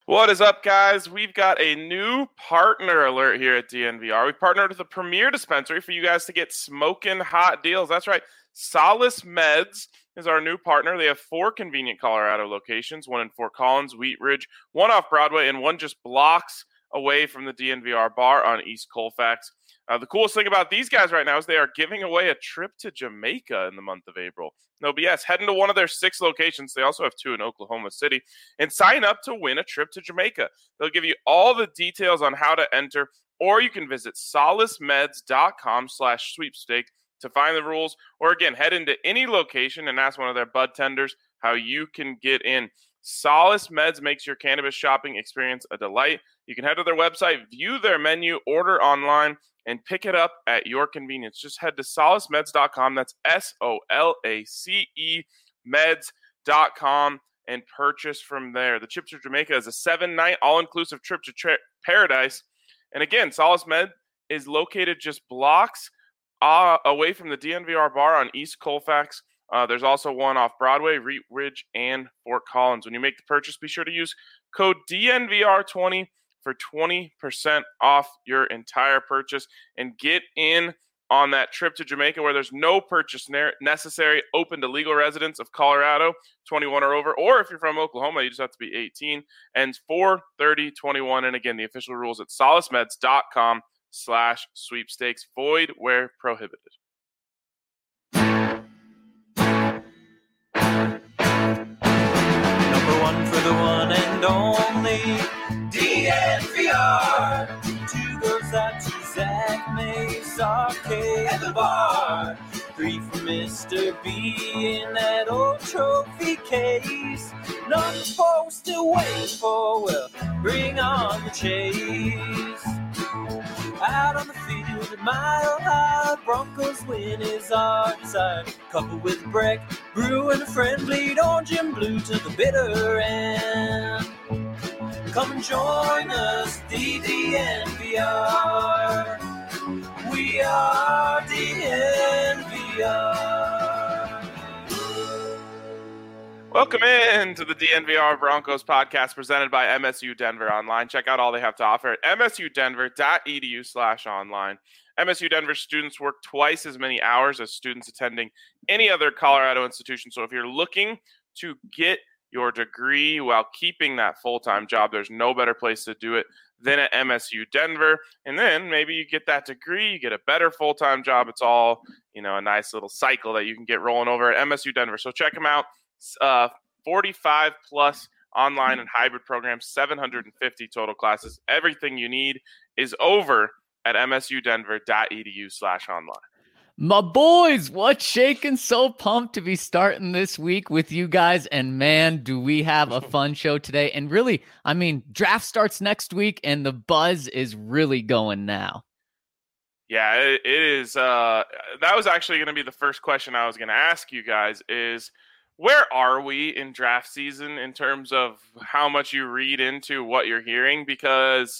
What is up, guys? We've got a new partner alert here at DNVR. We've partnered with the premier dispensary for you guys to get smoking hot deals. That's right. Solace Meds is our new partner. They have 4 convenient Colorado locations, one in Fort Collins, Wheat Ridge, one off Broadway, and one just blocks away from the DNVR bar on East Colfax. The coolest thing about these guys right now is they are giving away a trip to Jamaica in the month of April. No BS. Head into one of their 6 locations. They also have 2 in Oklahoma City. And sign up to win a trip to Jamaica. They'll give you all the details on how to enter, or you can visit solacemeds.com/sweepstake to find the rules. Or again, head into any location and ask one of their bud tenders how you can get in. Solace Meds makes your cannabis shopping experience a delight. You can head to their website, view their menu, order online, and pick it up at your convenience. Just head to solacemeds.com. That's SOLACE meds.com and purchase from there. The trip to Jamaica is a 7-night all-inclusive trip to paradise. And again, Solace Med is located just blocks away from the DNVR bar on East Colfax. There's also one off Broadway, Wheat Ridge, and Fort Collins. When you make the purchase, be sure to use code DNVR20 for 20% off your entire purchase and get in on that trip to Jamaica where there's no purchase necessary, open to legal residents of Colorado, 21 or over, or if you're from Oklahoma, you just have to be 18, and 4/30/21. And again, the official rules at solacemeds.com/sweepstakes, void where prohibited. Number one for the one and only DNVR. 2 goes out to Zach Mace, Arcade at the bar. 3 for Mr. B in that old trophy case. Not supposed to wait for, well, bring on the chase. Out on the field at Mile High, Broncos win is our desire. Coupled with Breck, Brew and a friend, bleed orange and blue to the bitter end. Come and join us, DNVR. We are DNVR. Welcome in to the DNVR Broncos podcast presented by MSU Denver Online. Check out all they have to offer at msudenver.edu/online. MSU Denver students work twice as many hours as students attending any other Colorado institution. So if you're looking to get your degree while keeping that full-time job, there's no better place to do it than at MSU Denver. And then maybe you get that degree, you get a better full-time job. It's all, a nice little cycle that you can get rolling over at MSU Denver. So check them out. 45 plus online and hybrid programs, 750 total classes. Everything you need is over at msudenver.edu/online. My boys, what's shaking? So pumped to be starting this week with you guys. And man, do we have a fun show today. And really, draft starts next week and the buzz is really going now. Yeah, it is. That was actually going to be the first question I was going to ask you guys is, where are we in draft season in terms of how much you read into what you're hearing? Because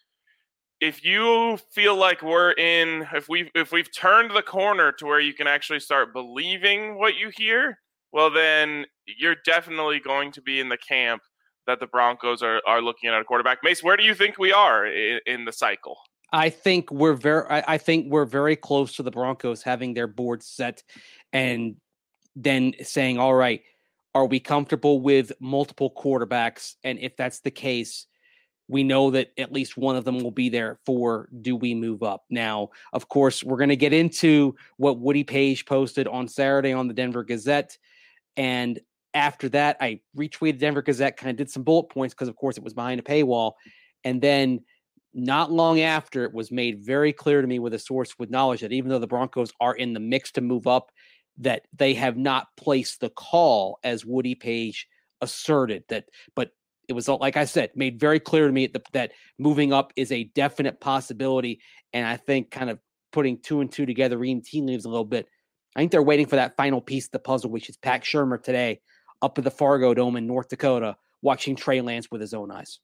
if you feel like if we've turned the corner to where you can actually start believing what you hear, well, then you're definitely going to be in the camp that the Broncos are looking at a quarterback. Mace, where do you think we are in the cycle? I think we're very close to the Broncos having their board set and then saying, all right, are we comfortable with multiple quarterbacks? And if that's the case, we know that at least one of them will be there for do we move up? Now, of course, we're going to get into what Woody Page posted on Saturday on the Denver Gazette. And after that, I retweeted Denver Gazette, kind of did some bullet points because, of course, it was behind a paywall. And then not long after, it was made very clear to me with a source with knowledge that even though the Broncos are in the mix to move up, that they have not placed the call as Woody Page asserted that, but it was, like I said, made very clear to me that moving up is a definite possibility. And I think kind of putting 2 and 2 together, reading tea leaves a little bit, I think they're waiting for that final piece of the puzzle, which is Pat Shurmur today up at the Fargo Dome in North Dakota, watching Trey Lance with his own eyes.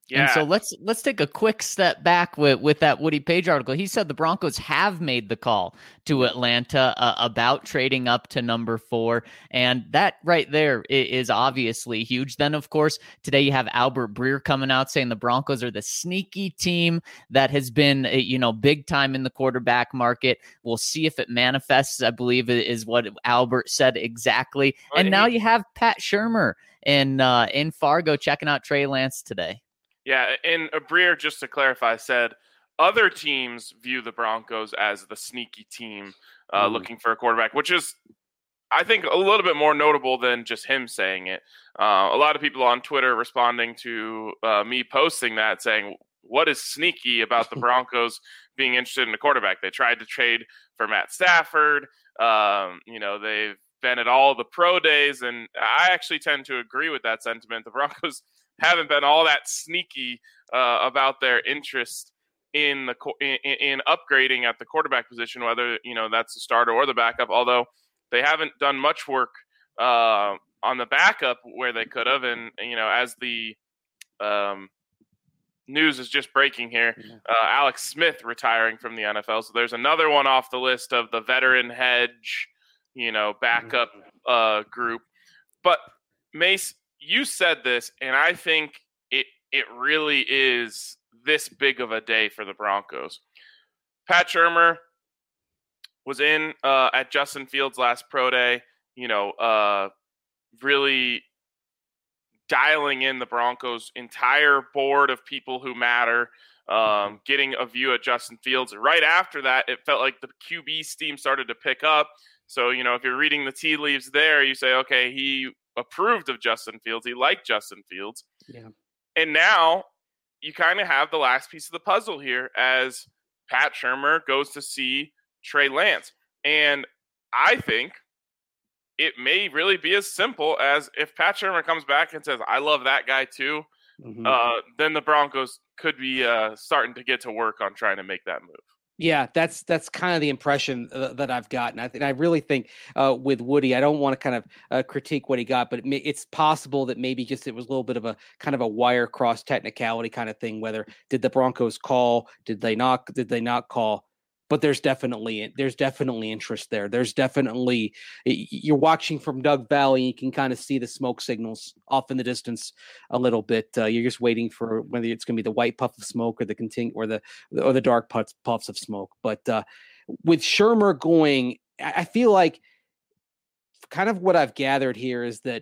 Yeah. And so let's take a quick step back with that Woody Page article. He said the Broncos have made the call to Atlanta about trading up to number 4, and that right there is obviously huge. Then, of course, today you have Albert Breer coming out saying the Broncos are the sneaky team that has been, big time in the quarterback market. We'll see if it manifests, I believe is what Albert said exactly. And now you have Pat Shurmur in Fargo checking out Trey Lance today. Yeah, and Breer, just to clarify, said other teams view the Broncos as the sneaky team looking for a quarterback, which is, I think, a little bit more notable than just him saying it. A lot of people on Twitter responding to me posting that, saying, what is sneaky about the Broncos being interested in a quarterback? They tried to trade for Matt Stafford. They've been at all the pro days, and I actually tend to agree with that sentiment. The Broncos haven't been all that sneaky about their interest in upgrading at the quarterback position, whether that's the starter or the backup. Although they haven't done much work on the backup where they could have, and as the news is just breaking here, Alex Smith retiring from the NFL, so there's another one off the list of the veteran hedge, backup group. But Mace, you said this, and I think it really is this big of a day for the Broncos. Pat Shurmur was in at Justin Fields' last pro day, really dialing in the Broncos' entire board of people who matter, getting a view at Justin Fields. Right after that, it felt like the QB steam started to pick up. So, if you're reading the tea leaves there, you say, okay, he approved of Justin Fields. He liked Justin Fields. Yeah. And now you kind of have the last piece of the puzzle here as Pat Shurmur goes to see Trey Lance. And I think it may really be as simple as if Pat Shurmur comes back and says, I love that guy too, then the Broncos could be starting to get to work on trying to make that move. Yeah, that's kind of the impression that I've gotten. I really think with Woody, I don't want to kind of critique what he got, but it's possible that maybe just it was a little bit of a kind of a wire cross technicality kind of thing. Whether did the Broncos call? Did they not call? But there's definitely interest there. There's definitely, you're watching from Doug Valley. You can kind of see the smoke signals off in the distance a little bit. You're just waiting for whether it's going to be the white puff of smoke or the dark puffs of smoke. But with Shurmur going, I feel like kind of what I've gathered here is that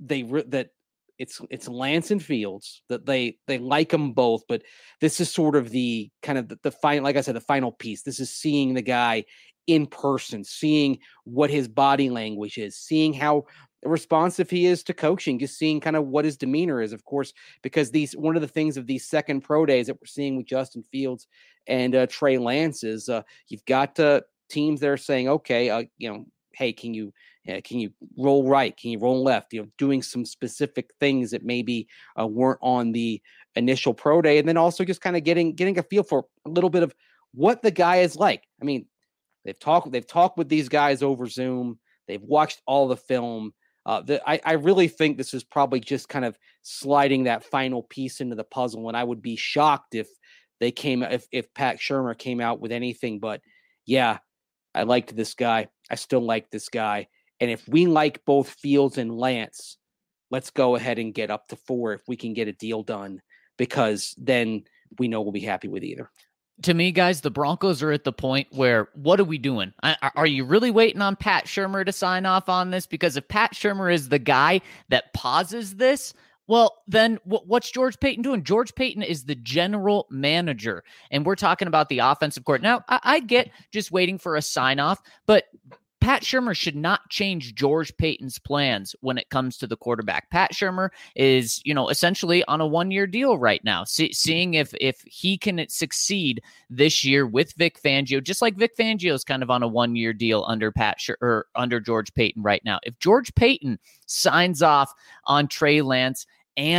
it's Lance and Fields, that they like them both, but this is sort of the kind of the final, like I said, the final piece. This is seeing the guy in person, seeing what his body language is, seeing how responsive he is to coaching, just seeing kind of what his demeanor is, of course, because one of the things of these second pro days that we're seeing with Justin Fields and Trey Lance is you've got teams that are saying, okay, hey, can you roll right? Can you roll left? Doing some specific things that maybe weren't on the initial pro day, and then also just kind of getting a feel for a little bit of what the guy is like. I mean, they've talked with these guys over Zoom. They've watched all the film. I really think this is probably just kind of sliding that final piece into the puzzle, and I would be shocked if Pat Shurmur came out with anything but, yeah, I liked this guy. I still like this guy. And if we like both Fields and Lance, let's go ahead and get up to 4 if we can get a deal done, because then we know we'll be happy with either. To me, guys, the Broncos are at the point where, what are we doing? Are you really waiting on Pat Shurmur to sign off on this? Because if Pat Shurmur is the guy that pauses this, well, then what's George Paton doing? George Paton is the general manager, and we're talking about the offensive court. Now, I get just waiting for a sign-off, but Pat Shurmur should not change George Paton's plans when it comes to the quarterback. Pat Shurmur is, essentially on a 1-year deal right now, seeing if he can succeed this year with Vic Fangio, just like Vic Fangio is kind of on a 1-year deal under under George Paton right now. If George Paton signs off on Trey Lance and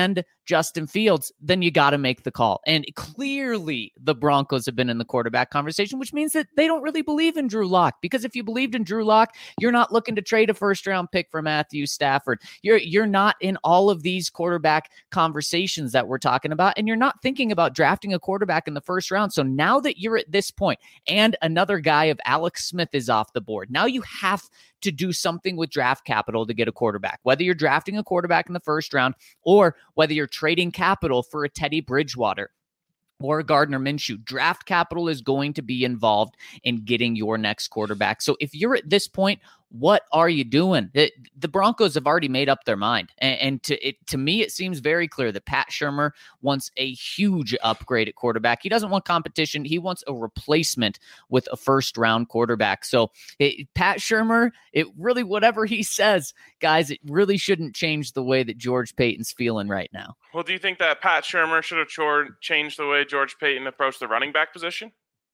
Justin Fields, then you got to make the call. And clearly the Broncos have been in the quarterback conversation, which means that they don't really believe in Drew Lock. Because if you believed in Drew Lock, you're not looking to trade a first-round pick for Matthew Stafford. You're not in all of these quarterback conversations that we're talking about, and you're not thinking about drafting a quarterback in the first round. So now that you're at this point, and another guy of Alex Smith is off the board, now you have to do something with draft capital to get a quarterback, whether you're drafting a quarterback in the first round or whether you're trading capital for a Teddy Bridgewater or Gardner Minshew. Draft capital is going to be involved in getting your next quarterback. So if you're at this point, what are you doing? The Broncos have already made up their mind. And to me, it seems very clear that Pat Shurmur wants a huge upgrade at quarterback. He doesn't want competition. He wants a replacement with a first-round quarterback. So Pat Shurmur, it really, whatever he says, guys, it really shouldn't change the way that George Paton's feeling right now. Well, do you think that Pat Shurmur should have changed the way George Paton approached the running back position?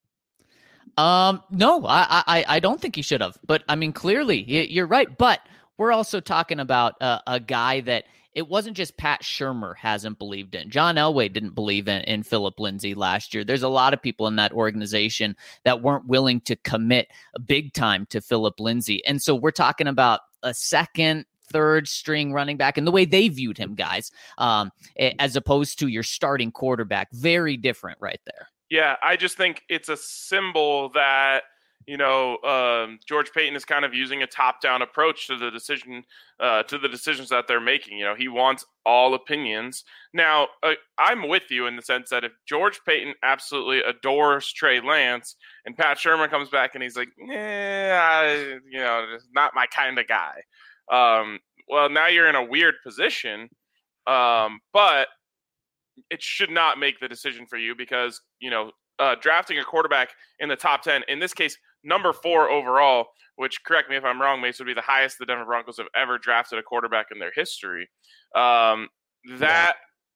No, I don't think he should have. But I mean, clearly, you're right. But we're also talking about a guy that it wasn't just Pat Shurmur hasn't believed in. John Elway didn't believe in Philip Lindsay last year. There's a lot of people in that organization that weren't willing to commit big time to Philip Lindsay. And so we're talking about a second, third string running back and the way they viewed him, guys, as opposed to your starting quarterback. Very different right there. Yeah, I just think it's a symbol that, George Paton is kind of using a top-down approach to the decisions that they're making. He wants all opinions. Now, I'm with you in the sense that if George Paton absolutely adores Trey Lance and Pat Shurmur comes back and he's like, not my kind of guy. Well, now you're in a weird position, but it should not make the decision for you because, drafting a quarterback in the top 10, in this case, number 4 overall, which, correct me if I'm wrong, Mace, would be the highest the Denver Broncos have ever drafted a quarterback in their history. That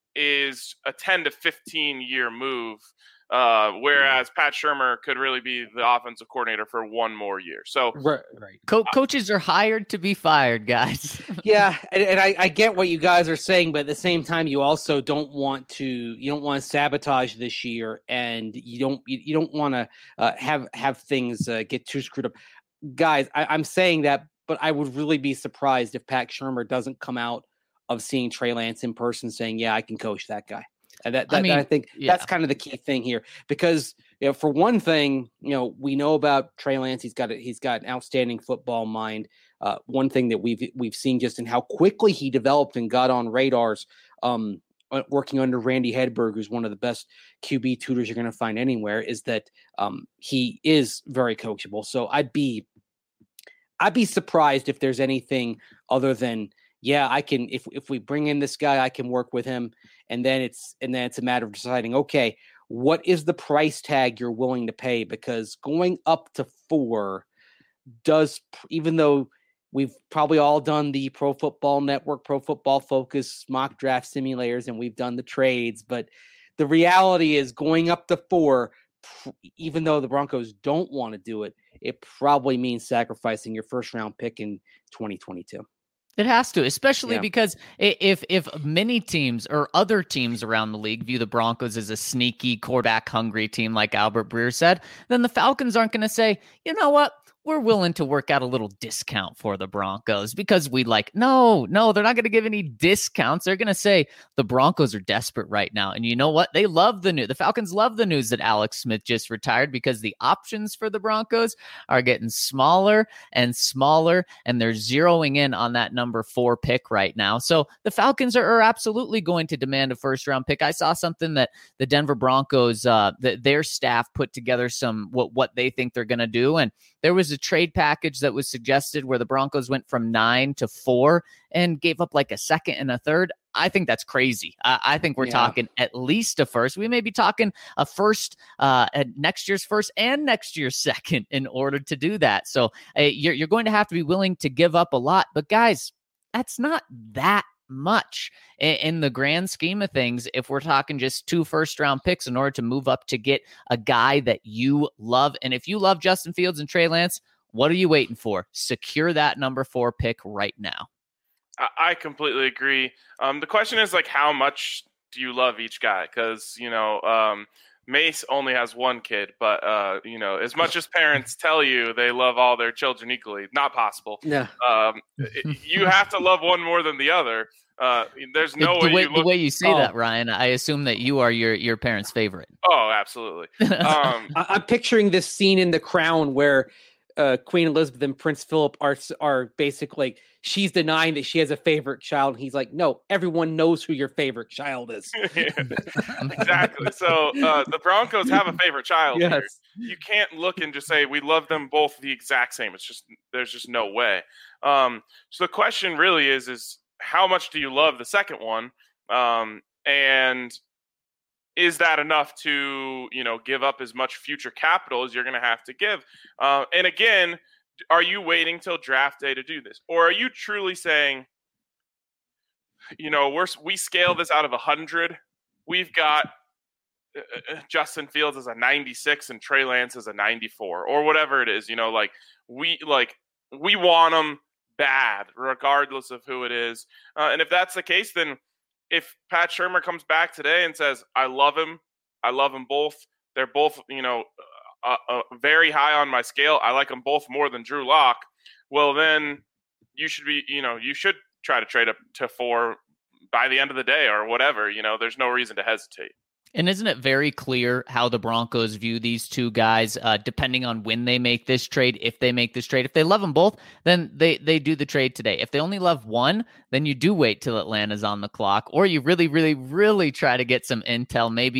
is a 10 to 15-year move, whereas Pat Shurmur could really be the offensive coordinator for one more year. So right. Coaches are hired to be fired, guys. Yeah, and I get what you guys are saying, but at the same time, you also don't want to sabotage this year, and you don't want to have things get too screwed up, guys. I'm saying that, but I would really be surprised if Pat Shurmur doesn't come out of seeing Trey Lance in person saying, "Yeah, I can coach that guy." And I think that's kind of the key thing here, because for one thing, we know about Trey Lance. He's got an outstanding football mind. One thing that we've seen just in how quickly he developed and got on radars, working under Randy Hedberg, who's one of the best QB tutors you're going to find anywhere, is that he is very coachable. So I'd be surprised if there's anything other than, yeah, I can, if we bring in this guy, I can work with him. And then it's a matter of deciding, okay, what is the price tag you're willing to pay? Because going up to 4 does, even though we've probably all done the Pro Football Network, Pro Football Focus mock draft simulators, and we've done the trades, but the reality is going up to 4, even though the Broncos don't want to do it, it probably means sacrificing your first round pick in 2022. It has to, especially because if many teams or other teams around the league view the Broncos as a sneaky quarterback hungry team, like Albert Breer said, then the Falcons aren't going to say, you know what? We're willing to work out a little discount for the Broncos because we no, they're not going to give any discounts. They're going to say the Broncos are desperate right now. And you know what? They love the Falcons love the news that Alex Smith just retired, because the options for the Broncos are getting smaller and smaller, and they're zeroing in on that number 4 pick right now. So the Falcons are absolutely going to demand a first round pick. I saw something that the Denver Broncos, their staff put together what they think they're going to do. And there was a trade package that was suggested where the Broncos went from 9 to 4 and gave up like a second and a third. I think that's crazy. I think we're talking at least a first. We may be talking a first, next year's first and next year's second in order to do that. So you're going to have to be willing to give up a lot. But guys, that's not that much in the grand scheme of things. If we're talking just 2 first-round picks in order to move up to get a guy that you love. And if you love Justin Fields and Trey Lance, what are you waiting for? Secure that number 4 pick right now. I completely agree. The question is like, how much do you love each guy? Because Mace only has one kid, but as much as parents tell you they love all their children equally, not possible. Yeah. You have to love one more than the other. There's no way the way you say that, Ryan, I assume that you are your parents' favorite. Oh, absolutely. I'm picturing this scene in The Crown where Queen Elizabeth and Prince Philip are basically, she's denying that she has a favorite child. And he's like, no, everyone knows who your favorite child is. Exactly. So the Broncos have a favorite child. Yes. Here. You can't look and just say we love them both the exact same. There's just no way. So the question really is how much do you love the second one? And is that enough to, give up as much future capital as you're going to have to give? And again, are you waiting till draft day to do this? Or are you truly saying, we scale this out of 100. We've got Justin Fields as a 96 and Trey Lance as a 94 or whatever it is, we want them bad regardless of who it is. And if that's the case, then if Pat Shurmur comes back today and says, I love him both, they're both, very high on my scale, I like them both more than Drew Lock, well, then you should be, you should try to trade up to 4 by the end of the day or whatever. There's no reason to hesitate. And isn't it very clear how the Broncos view these two guys, depending on when they make this trade, if they make this trade? If they love them both, then they do the trade today. If they only love one, then you do wait till Atlanta's on the clock, or you really, really, really try to get some intel. Maybe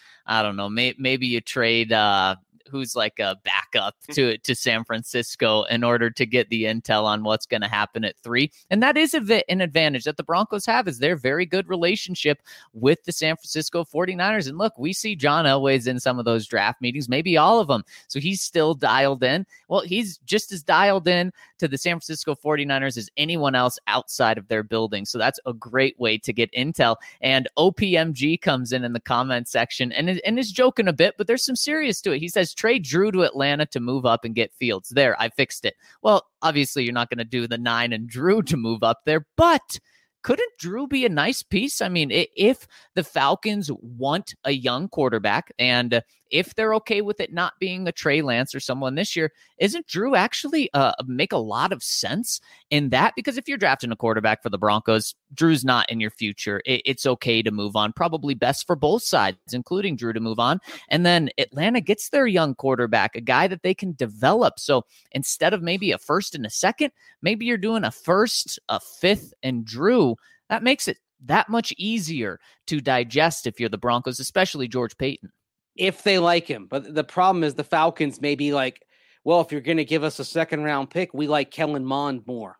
maybe you trade who's like a backup to San Francisco in order to get the intel on what's going to happen at 3. And that is an advantage that the Broncos have, is their very good relationship with the San Francisco 49ers. And look, we see John Elway's in some of those draft meetings, maybe all of them. So he's still dialed in. Well, he's just as dialed in to the San Francisco 49ers as anyone else outside of their building. So that's a great way to get intel. And OPMG comes in the comment section and is joking a bit, but there's some serious to it. He says, trade Drew to Atlanta to move up and get Fields. There, I fixed it. Well, obviously you're not going to do the 9 and Drew to move up there, but couldn't Drew be a nice piece? I mean, if the Falcons want a young quarterback and if they're okay with it not being a Trey Lance or someone this year, isn't Drew actually make a lot of sense in that? Because if you're drafting a quarterback for the Broncos, Drew's not in your future. It's okay to move on. Probably best for both sides, including Drew, to move on. And then Atlanta gets their young quarterback, a guy that they can develop. So instead of maybe a first and a second, maybe you're doing a first, a fifth, and Drew. That makes it that much easier to digest if you're the Broncos, especially George Paton. If they like him. But the problem is the Falcons may be like, well, if you're going to give us a second round pick, we like Kellen Mond more.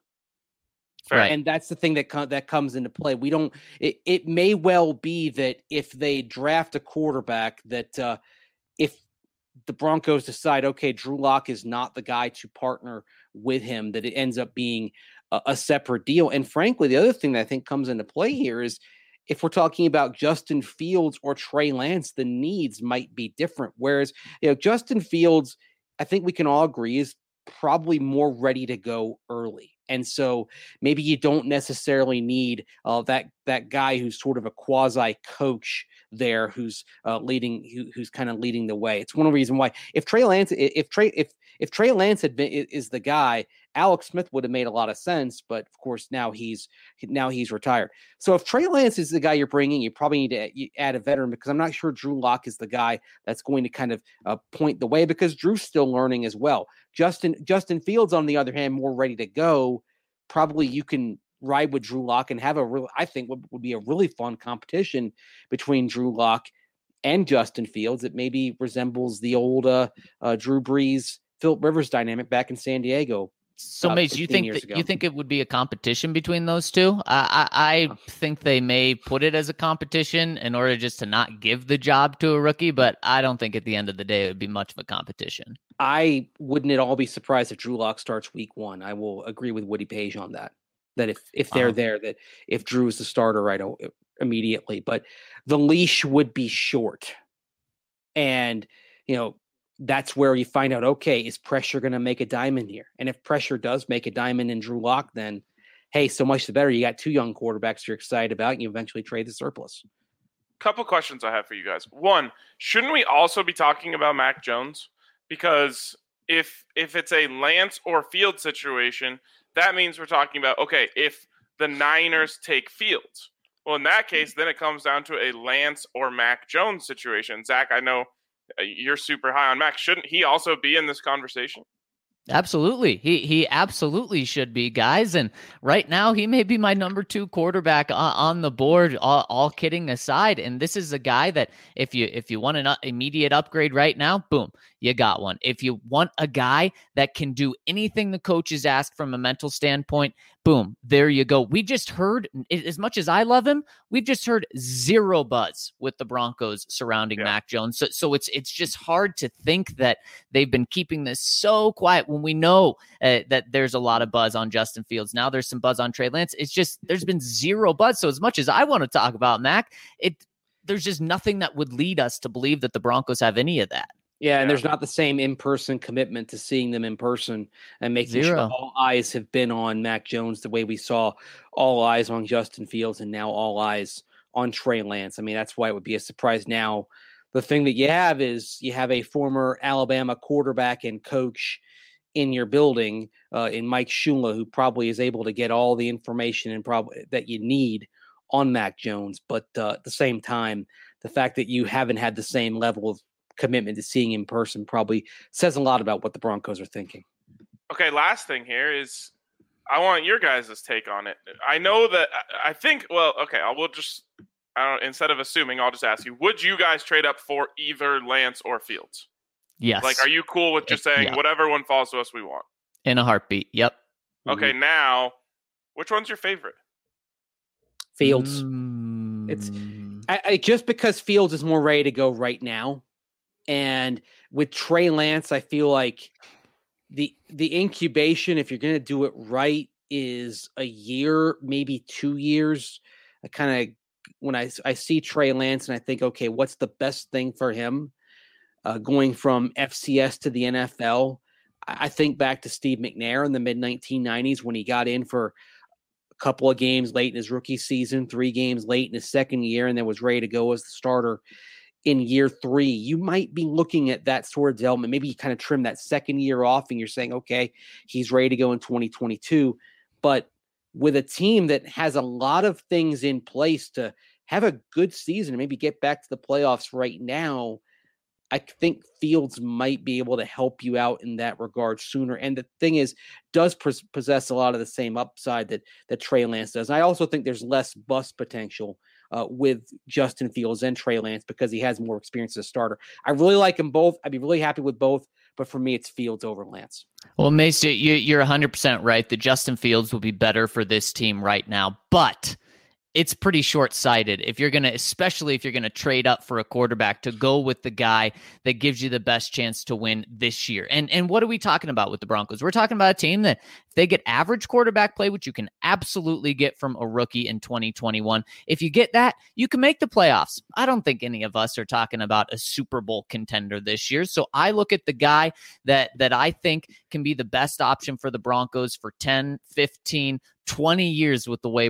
Right. And that's the thing that comes into play. It may well be that if they draft a quarterback that if the Broncos decide, okay, Drew Lock is not the guy to partner with him, that it ends up being a separate deal. And frankly, the other thing that I think comes into play here is if we're talking about Justin Fields or Trey Lance, the needs might be different. Whereas, Justin Fields, I think we can all agree, is probably more ready to go early. And so maybe you don't necessarily need that guy who's sort of a quasi coach there, who's kind of leading the way. It's one of the reasons why if Trey Lance is the guy, Alex Smith would have made a lot of sense, but of course now he's retired. So if Trey Lance is the guy you're bringing, you probably need to add a veteran, because I'm not sure Drew Lock is the guy that's going to kind of point the way, because Drew's still learning as well. Justin Fields, on the other hand, more ready to go. Probably you can ride with Drew Lock and have I think would be a really fun competition between Drew Lock and Justin Fields. It maybe resembles the old Drew Brees, Philip Rivers dynamic back in San Diego. So, Mace, you think it would be a competition between those two? I think they may put it as a competition in order just to not give the job to a rookie, but I don't think at the end of the day it would be much of a competition. I wouldn't at all be surprised if Drew Lock starts week 1. I will agree with Woody Page on that. That if they're there, that if Drew is the starter right immediately, but the leash would be short, and that's where you find out, okay, is pressure going to make a diamond here? And if pressure does make a diamond in Drew Lock, then hey, so much the better. You got 2 young quarterbacks you're excited about, and you eventually trade the surplus. Couple questions I have for you guys. One, shouldn't we also be talking about Mac Jones? Because if it's a Lance or Fields situation, that means we're talking about, okay, if the Niners take Fields, well, in that case, then it comes down to a Lance or Mac Jones situation. Zach, I know you're super high on Mac. Shouldn't he also be in this conversation? Absolutely. He absolutely should be, guys. And right now, he may be my number 2 quarterback on the board, all kidding aside. And this is a guy that if you want an immediate upgrade right now, boom, you got one. If you want a guy that can do anything the coaches ask from a mental standpoint, boom, there you go. We just heard, as much as I love him, we've just heard zero buzz with the Broncos surrounding Mac Jones. So it's just hard to think that they've been keeping this so quiet when we know that there's a lot of buzz on Justin Fields. Now there's some buzz on Trey Lance. It's just, there's been zero buzz. So as much as I want to talk about Mac, there's just nothing that would lead us to believe that the Broncos have any of that. Yeah, and there's not the same in-person commitment to seeing them in person and making sure all eyes have been on Mac Jones the way we saw all eyes on Justin Fields and now all eyes on Trey Lance. I mean, that's why it would be a surprise now. The thing that you have is you have a former Alabama quarterback and coach in your building in Mike Shula, who probably is able to get all the information and probably that you need on Mac Jones. But at the same time, the fact that you haven't had the same level of commitment to seeing in person probably says a lot about what the Broncos are thinking. Okay, last thing here is I want your guys' take on it. I know that I think, well, okay, instead of assuming, I'll just ask you, would you guys trade up for either Lance or Fields? Yes. Like, are you cool with just saying whatever one falls to us we want? In a heartbeat, yep. Okay, now, which one's your favorite? Fields. It's just because Fields is more ready to go right now. And with Trey Lance, I feel like the incubation, if you're going to do it right, is a year, maybe 2 years. I kind of, when I see Trey Lance and I think, okay, what's the best thing for him going from FCS to the NFL? I think back to Steve McNair in the mid-1990s when he got in for a couple of games late in his rookie season, 3 games late in his second year, and then was ready to go as the starter in year 3. You might be looking at that sort of development. Maybe you kind of trim that second year off and you're saying, okay, he's ready to go in 2022. But with a team that has a lot of things in place to have a good season and maybe get back to the playoffs right now, I think Fields might be able to help you out in that regard sooner. And the thing is, does possess a lot of the same upside that Trey Lance does. And I also think there's less bust potential with Justin Fields and Trey Lance because he has more experience as a starter. I really like them both. I'd be really happy with both, but for me, it's Fields over Lance. Well, Mace, you're 100% right that Justin Fields will be better for this team right now, but it's pretty short-sighted especially if you're going to trade up for a quarterback, to go with the guy that gives you the best chance to win this year. And what are we talking about with the Broncos? We're talking about a team that if they get average quarterback play, which you can absolutely get from a rookie in 2021, if you get that, you can make the playoffs. I don't think any of us are talking about a Super Bowl contender this year. So I look at the guy that I think can be the best option for the Broncos for 10, 15, 20 years with the way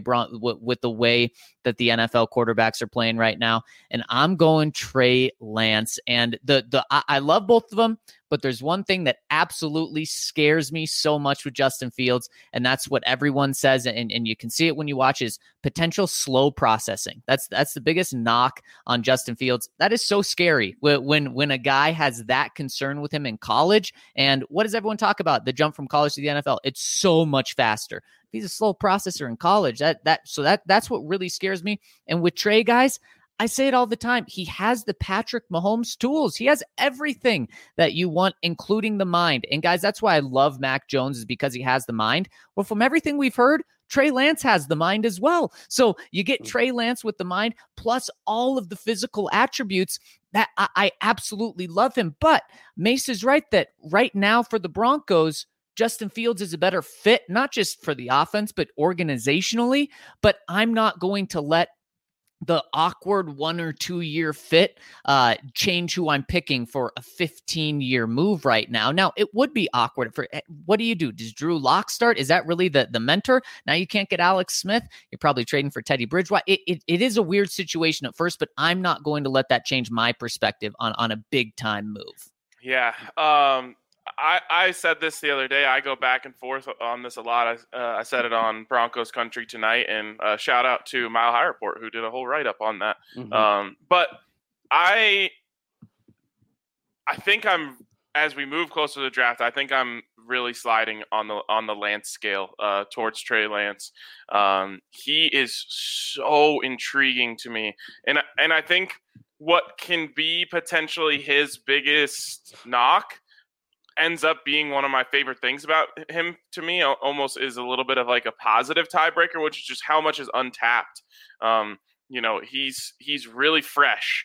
that the NFL quarterbacks are playing right now. And I'm going Trey Lance. And I love both of them, but there's one thing that absolutely scares me so much with Justin Fields, and that's what everyone says, and you can see it when you watch, is potential slow processing. That's the biggest knock on Justin Fields. That is so scary when a guy has that concern with him in college. And what does everyone talk about? The jump from college to the NFL. It's so much faster. He's a slow processor in college. That's what really scares me. And with Trey, guys, I say it all the time. He has the Patrick Mahomes tools. He has everything that you want, including the mind. And guys, that's why I love Mac Jones, is because he has the mind. Well, from everything we've heard, Trey Lance has the mind as well. So you get Trey Lance with the mind plus all of the physical attributes that I absolutely love him. But Mace is right that right now for the Broncos, Justin Fields is a better fit, not just for the offense, but organizationally. But I'm not going to let the awkward 1 or 2 year fit, change who I'm picking for a 15-year move right now. Now, it would be awkward for what do you do? Does Drew Lock start? Is that really the mentor? Now you can't get Alex Smith. You're probably trading for Teddy Bridgewater. It is a weird situation at first, but I'm not going to let that change my perspective on a big time move. Yeah. I said this the other day. I go back and forth on this a lot. I said it on Broncos Country tonight, and shout out to Mile High Report who did a whole write up on that. Mm-hmm. But I think as we move closer to the draft, I think I'm really sliding on the Lance scale towards Trey Lance. He is so intriguing to me, and I think what can be potentially his biggest knock ends up being one of my favorite things about him. To me, almost is a little bit of like a positive tiebreaker, which is just how much is untapped. He's really fresh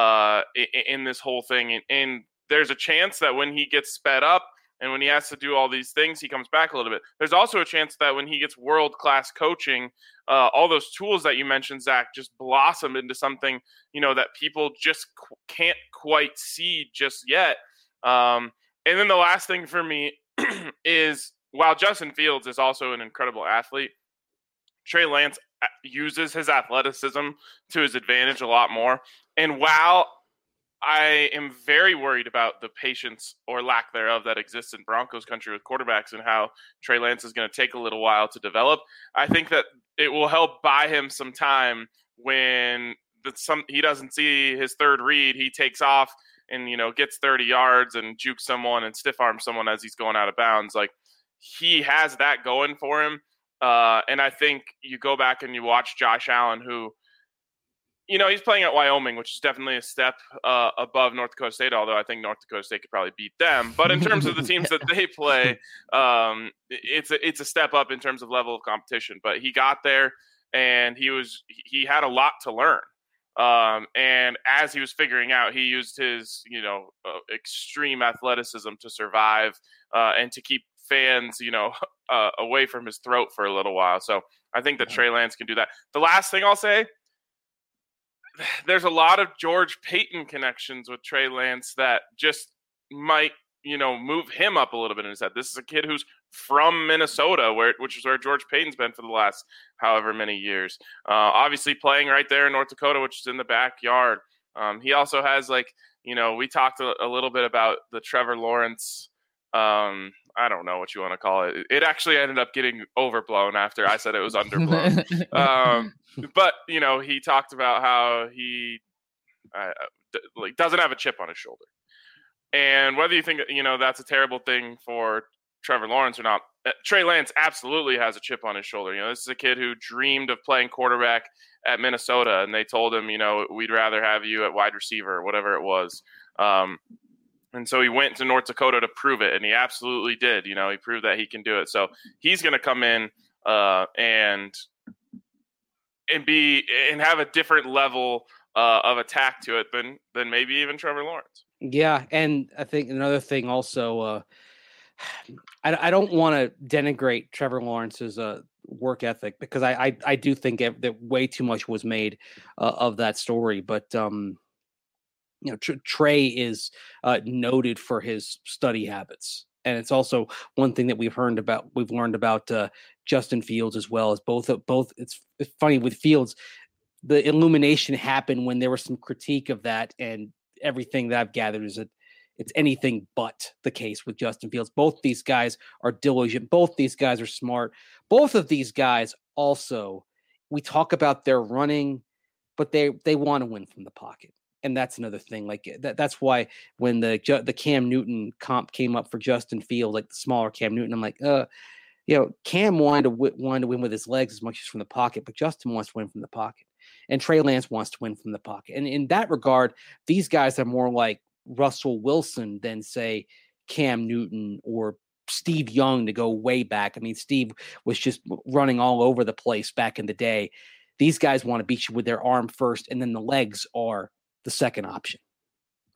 in this whole thing, and there's a chance that when he gets sped up and when he has to do all these things, he comes back a little bit. There's also a chance that when he gets world-class coaching, all those tools that you mentioned, Zach, just blossom into something, that people just can't quite see just yet. And then the last thing for me is, while Justin Fields is also an incredible athlete, Trey Lance uses his athleticism to his advantage a lot more. And while I am very worried about the patience or lack thereof that exists in Broncos country with quarterbacks and how Trey Lance is going to take a little while to develop, I think that it will help buy him some time when he doesn't see his third read. He takes off and, gets 30 yards and jukes someone and stiff arms someone as he's going out of bounds. Like, he has that going for him. And I think you go back and you watch Josh Allen, who, he's playing at Wyoming, which is definitely a step above North Dakota State, although I think North Dakota State could probably beat them. But in terms of the teams that they play, it's a step up in terms of level of competition. But he got there, and he had a lot to learn. And as he was figuring out, he used his, extreme athleticism to survive and to keep fans, away from his throat for a little while. So I think that Trey Lance can do that. The last thing I'll say, there's a lot of George Paton connections with Trey Lance that just might, move him up a little bit in his head. This is a kid who's from Minnesota, which is where George Paton's been for the last however many years. Obviously playing right there in North Dakota, which is in the backyard. He also has we talked a little bit about the Trevor Lawrence. I don't know what you want to call it. It actually ended up getting overblown after I said it was underblown. But he talked about how he doesn't have a chip on his shoulder. And whether you think, that's a terrible thing for Trevor Lawrence or not, Trey Lance absolutely has a chip on his shoulder. This is a kid who dreamed of playing quarterback at Minnesota, and they told him, we'd rather have you at wide receiver or whatever it was. And so he went to North Dakota to prove it, and he absolutely did. He proved that he can do it. So he's going to come in and have a different level of attack to it than maybe even Trevor Lawrence. Yeah, and I think another thing also, I don't want to denigrate Trevor Lawrence's work ethic, because I do think that way too much was made of that story. But Trey is noted for his study habits, and it's also one thing that we've learned about Justin Fields as well. As both. It's funny with Fields, the illumination happened when there was some critique of that, and everything that I've gathered is that it's anything but the case with Justin Fields. Both these guys are diligent. Both these guys are smart. Both of these guys also, we talk about their running, but they want to win from the pocket. And that's another thing. Like that's why when the Cam Newton comp came up for Justin Fields, like the smaller Cam Newton, I'm like, Cam wanted to win with his legs as much as from the pocket, but Justin wants to win from the pocket. And Trey Lance wants to win from the pocket. And in that regard, these guys are more like Russell Wilson than, say, Cam Newton or Steve Young, to go way back. I mean, Steve was just running all over the place back in the day. These guys want to beat you with their arm first, and then the legs are the second option.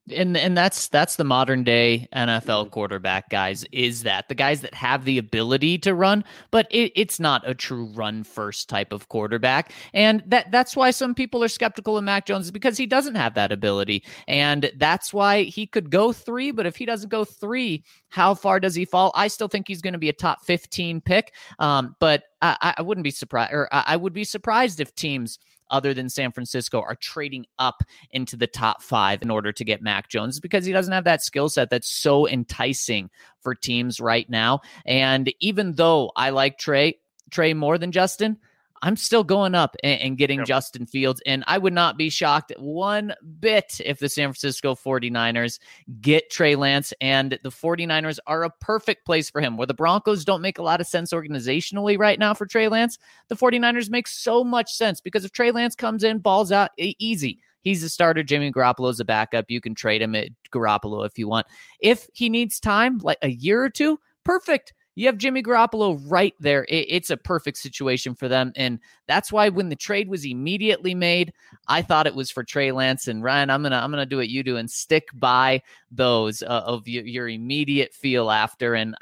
And that's the modern day NFL quarterback, guys, is that the guys that have the ability to run, but it's not a true run first type of quarterback. And that's why some people are skeptical of Mac Jones, is because he doesn't have that ability. And that's why he could go 3, but if he doesn't go 3, how far does he fall? I still think he's going to be a top 15 pick. But I wouldn't be surprised, or I would be surprised if teams other than San Francisco are trading up into the top 5 in order to get Mac Jones, because he doesn't have that skill set that's so enticing for teams right now. And even though I like Trey more than Justin, I'm still going up and getting Justin Fields. And I would not be shocked one bit if the San Francisco 49ers get Trey Lance, and the 49ers are a perfect place for him. Where the Broncos don't make a lot of sense organizationally right now for Trey Lance, the 49ers make so much sense, because if Trey Lance comes in, balls out, easy. He's a starter. Jimmy Garoppolo's a backup. You can trade him at Garoppolo if you want. If he needs time, like a year or two, perfect. You have Jimmy Garoppolo right there. It's a perfect situation for them. And that's why when the trade was immediately made, I thought it was for Trey Lance. And Ryan, I'm gonna do what you do and stick by those of your immediate feel after. And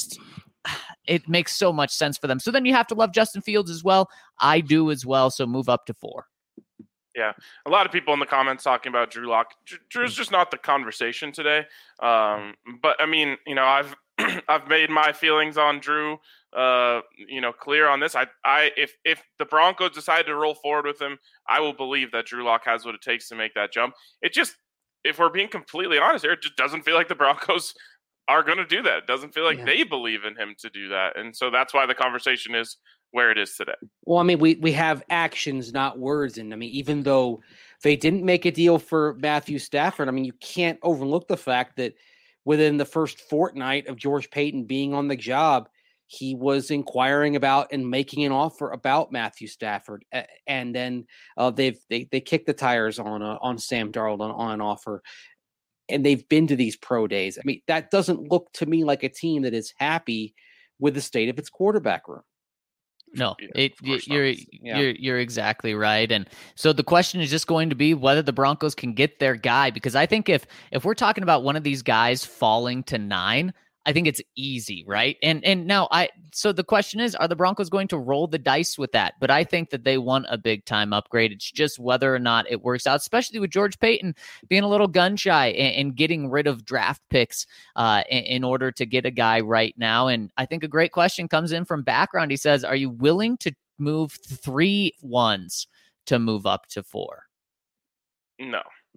it makes so much sense for them. So then you have to love Justin Fields as well. I do as well. So move up to 4. Yeah, a lot of people in the comments talking about Drew Lock. Drew's just not the conversation today. But I mean, I've I've made my feelings on Drew, clear on this. If the Broncos decide to roll forward with him, I will believe that Drew Lock has what it takes to make that jump. It just, if we're being completely honest here, it just doesn't feel like the Broncos are going to do that. It doesn't feel like they believe in him to do that, and so that's why the conversation is where it is today. Well, I mean, we have actions, not words. And I mean, even though they didn't make a deal for Matthew Stafford, I mean, you can't overlook the fact that within the first fortnight of George Paton being on the job, he was inquiring about and making an offer about Matthew Stafford. And then they kicked the tires on Sam Darnold on an offer. And they've been to these pro days. I mean, that doesn't look to me like a team that is happy with the state of its quarterback room. No, you're exactly right. And so the question is just going to be whether the Broncos can get their guy, because I think if we're talking about one of these guys falling to 9, I think it's easy, right? And now so the question is, are the Broncos going to roll the dice with that? But I think that they want a big time upgrade. It's just whether or not it works out, especially with George Paton being a little gun shy and getting rid of draft picks in order to get a guy right now. And I think a great question comes in from background. He says, are you willing to move 3 ones to move up to 4? No.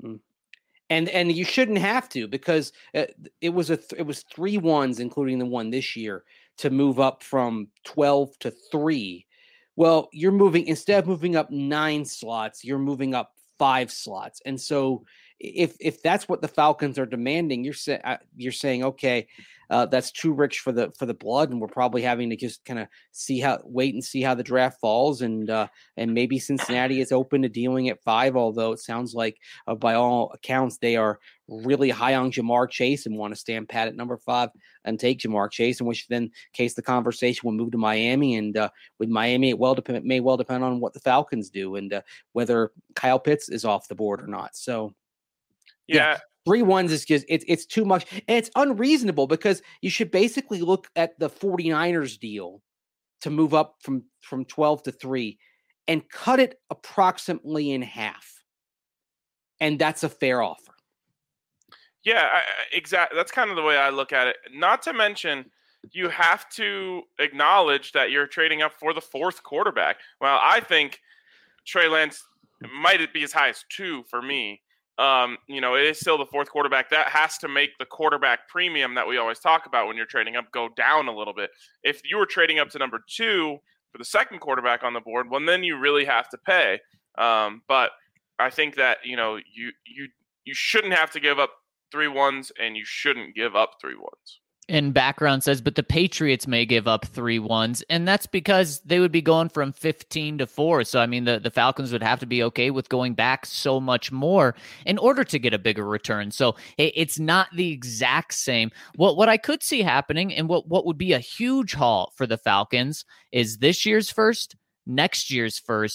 And you shouldn't have to, because it was 3 ones, including the one this year, to move up from 12 to 3. Well, you're moving, instead of moving up 9 slots, you're moving up 5 slots. And so if that's what the Falcons are demanding, you're saying, okay, that's too rich for the blood, and we're probably having to just kind of wait and see how the draft falls, and maybe Cincinnati is open to dealing at 5. Although it sounds like by all accounts they are really high on Jamar Chase and want to stand pat at number 5 and take Jamar Chase, in which then in case the conversation will move to Miami, and with Miami it may well depend on what the Falcons do and whether Kyle Pitts is off the board or not. So. Yeah. 3 ones is just, it's too much. And it's unreasonable, because you should basically look at the 49ers deal to move up from 12 to 3 and cut it approximately in half. And that's a fair offer. Yeah, exactly. That's kind of the way I look at it. Not to mention, you have to acknowledge that you're trading up for the 4th quarterback. Well, I think Trey Lance might be as high as 2 for me. It is still the 4th quarterback. That has to make the quarterback premium that we always talk about when you're trading up go down a little bit. If you were trading up to number 2 for the 2nd quarterback on the board, well, then you really have to pay. But I think that, you shouldn't have to give up 3 ones, and you shouldn't give up 3 ones. And background says, but the Patriots may give up 3 ones, and that's because they would be going from 15 to 4. So, I mean, the Falcons would have to be okay with going back so much more in order to get a bigger return. So it's not the exact same. What I could see happening, and what would be a huge haul for the Falcons, is this year's first, next year's first,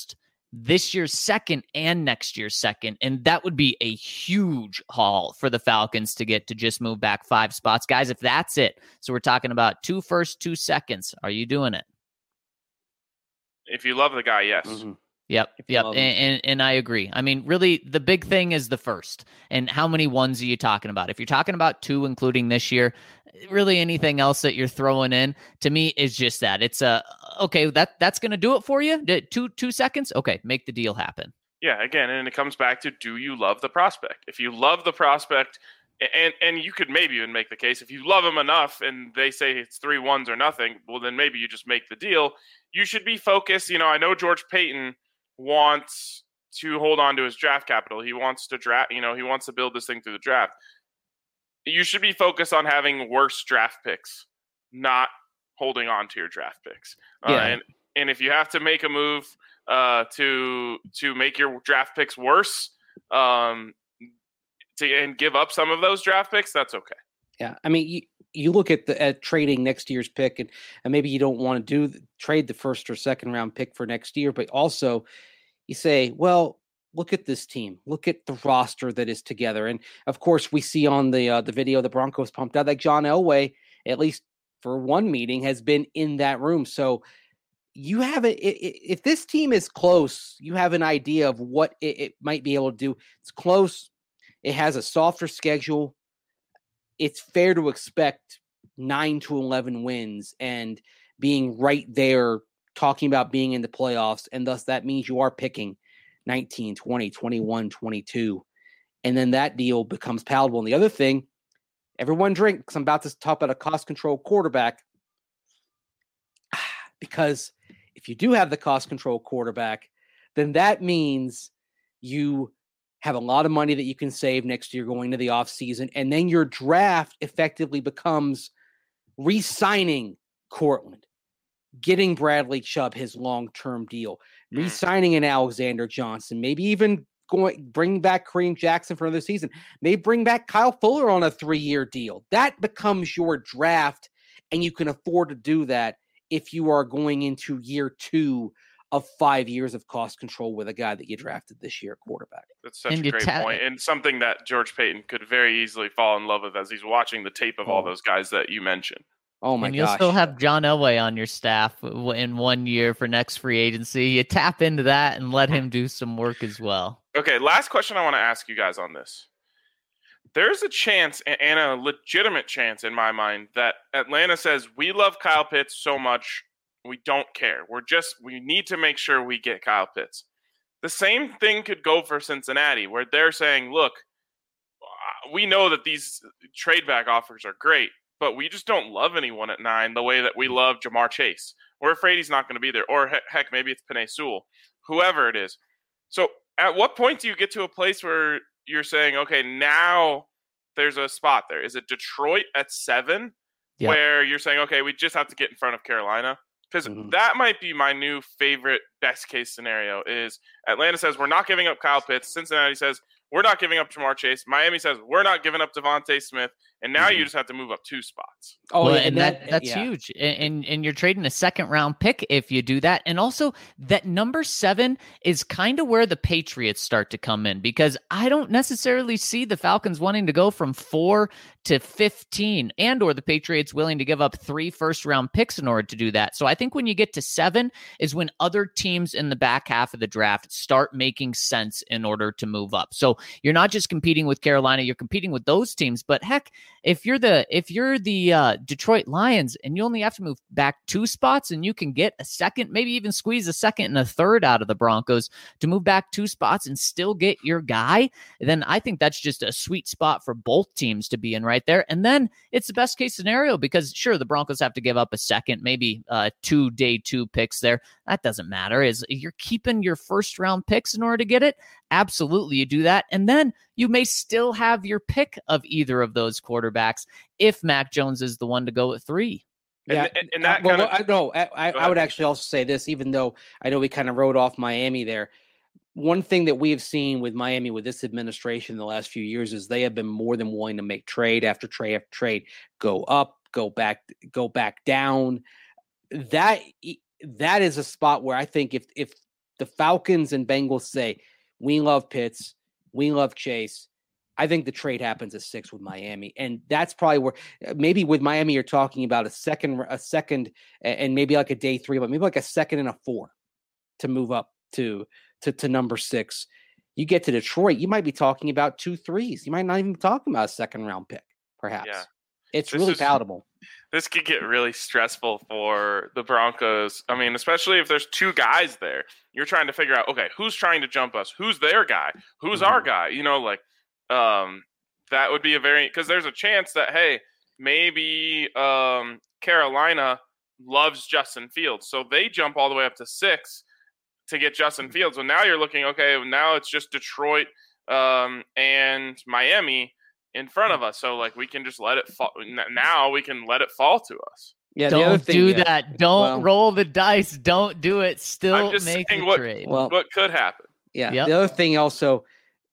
this year's second and next year's second. And that would be a huge haul for the Falcons to get to just move back 5 spots. Guys, if that's it, so we're talking about 2 firsts, 2 seconds. Are you doing it? If you love the guy, yes. Mm-hmm. Yep. And I agree. I mean, really, the big thing is the first. And how many ones are you talking about? If you're talking about 2, including this year, really anything else that you're throwing in, to me, is just that. It's okay, that's going to do it for you? 2 seconds? Okay, make the deal happen. Yeah, again, and it comes back to, do you love the prospect? If you love the prospect, and you could maybe even make the case, if you love him enough and they say it's 3 ones or nothing, well, then maybe you just make the deal. You should be focused. I know George Paton wants to hold on to his draft capital. He wants to draft, he wants to build this thing through the draft. You should be focused on having worse draft picks, not holding on to your draft picks. Yeah. And if you have to make a move to make your draft picks worse, and give up some of those draft picks, that's okay. Yeah, I mean, you look at trading next year's pick, and maybe you don't want to trade the first or second round pick for next year, but also you say, well, look at this team, look at the roster that is together, and of course we see on the video the Broncos pumped out that John Elway, at least for one meeting, has been in that room. So you have if this team is close, you have an idea of what it might be able to do. It's close. It has a softer schedule. It's fair to expect 9 to 11 wins and being right there, talking about being in the playoffs. And thus that means you are picking 19, 20, 21, 22. And then that deal becomes palatable. And the other thing, everyone drink, because I'm about to talk about a cost control quarterback. Because if you do have the cost control quarterback, then that means you have a lot of money that you can save next year going to the offseason. And then your draft effectively becomes re-signing Cortland, getting Bradley Chubb his long-term deal, re-signing an Alexander Johnson, maybe even bring back Kareem Jackson for another season, maybe bring back Kyle Fuller on a 3-year deal. That becomes your draft, and you can afford to do that if you are going into year 2 of 5 years of cost control with a guy that you drafted this year, quarterback. That's such a great point, and something that George Paton could very easily fall in love with as he's watching the tape of all those guys that you mentioned. Oh my gosh. And you'll still have John Elway on your staff in 1 year for next free agency. You tap into that and let him do some work as well. Okay, last question I want to ask you guys on this. There's a chance, and a legitimate chance in my mind, that Atlanta says, we love Kyle Pitts so much, we don't care. We need to make sure we get Kyle Pitts. The same thing could go for Cincinnati, where they're saying, look, we know that these trade back offers are great, but we just don't love anyone at 9 the way that we love Jamar Chase. We're afraid he's not going to be there. Or heck, maybe it's Penei Sewell, whoever it is. So at what point do you get to a place where you're saying, okay, now there's a spot there? Is it Detroit at 7 where you're saying, okay, we just have to get in front of Carolina? Because that might be my new favorite best case scenario is Atlanta says, we're not giving up Kyle Pitts. Cincinnati says, we're not giving up Jamar Chase. Miami says, we're not giving up Devontae Smith. And now you just have to move up 2 spots. Oh, well, and that's huge. And you're trading a second-round pick if you do that. And also, that number 7 is kind of where the Patriots start to come in, because I don't necessarily see the Falcons wanting to go from 4 to 15, and or the Patriots willing to give up 3 first-round picks in order to do that. So I think when you get to 7 is when other teams in the back half of the draft start making sense in order to move up. So you're not just competing with Carolina, you're competing with those teams. But heck, if you're the Detroit Lions and you only have to move back 2 spots and you can get a second, maybe even squeeze a second and a third out of the Broncos to move back 2 spots and still get your guy, then I think that's just a sweet spot for both teams to be in right there. And then it's the best case scenario, because sure, the Broncos have to give up a second, maybe 2 day 2 picks there. That doesn't matter. Is you're keeping your first round picks in order to get it? Absolutely, you do that. And then you may still have your pick of either of those quarterbacks if Mac Jones is the one to go at 3. Yeah, and that I would actually also say this, even though I know we kind of wrote off Miami there. One thing that we have seen with Miami with this administration in the last few years is they have been more than willing to make trade after trade after trade, go up, go back down. That is a spot where I think if the Falcons and Bengals say, we love Pitts, we love Chase, I think the trade happens at 6 with Miami. And that's probably where maybe with Miami, you're talking about a second, and maybe like a day 3, but maybe like a 2nd and a 4 to move up to number 6. You get to Detroit, you might be talking about 2 3s. You might not even be talking about a 2nd round pick, perhaps. Yeah. It's really palatable. This could get really stressful for the Broncos. I mean, especially if there's 2 guys there. You're trying to figure out, okay, who's trying to jump us? Who's their guy? Who's our guy? You know, like that would be because there's a chance that, hey, maybe Carolina loves Justin Fields. So they jump all the way up to 6 to get Justin Fields. So now you're looking, okay, now it's just Detroit and Miami in front of us. So like we can just let it fall. Now we can let it fall to us. Yeah, don't do that. Don't roll the dice. Don't do it. Still make the trade. What could happen? Yeah. Yep. The other thing also,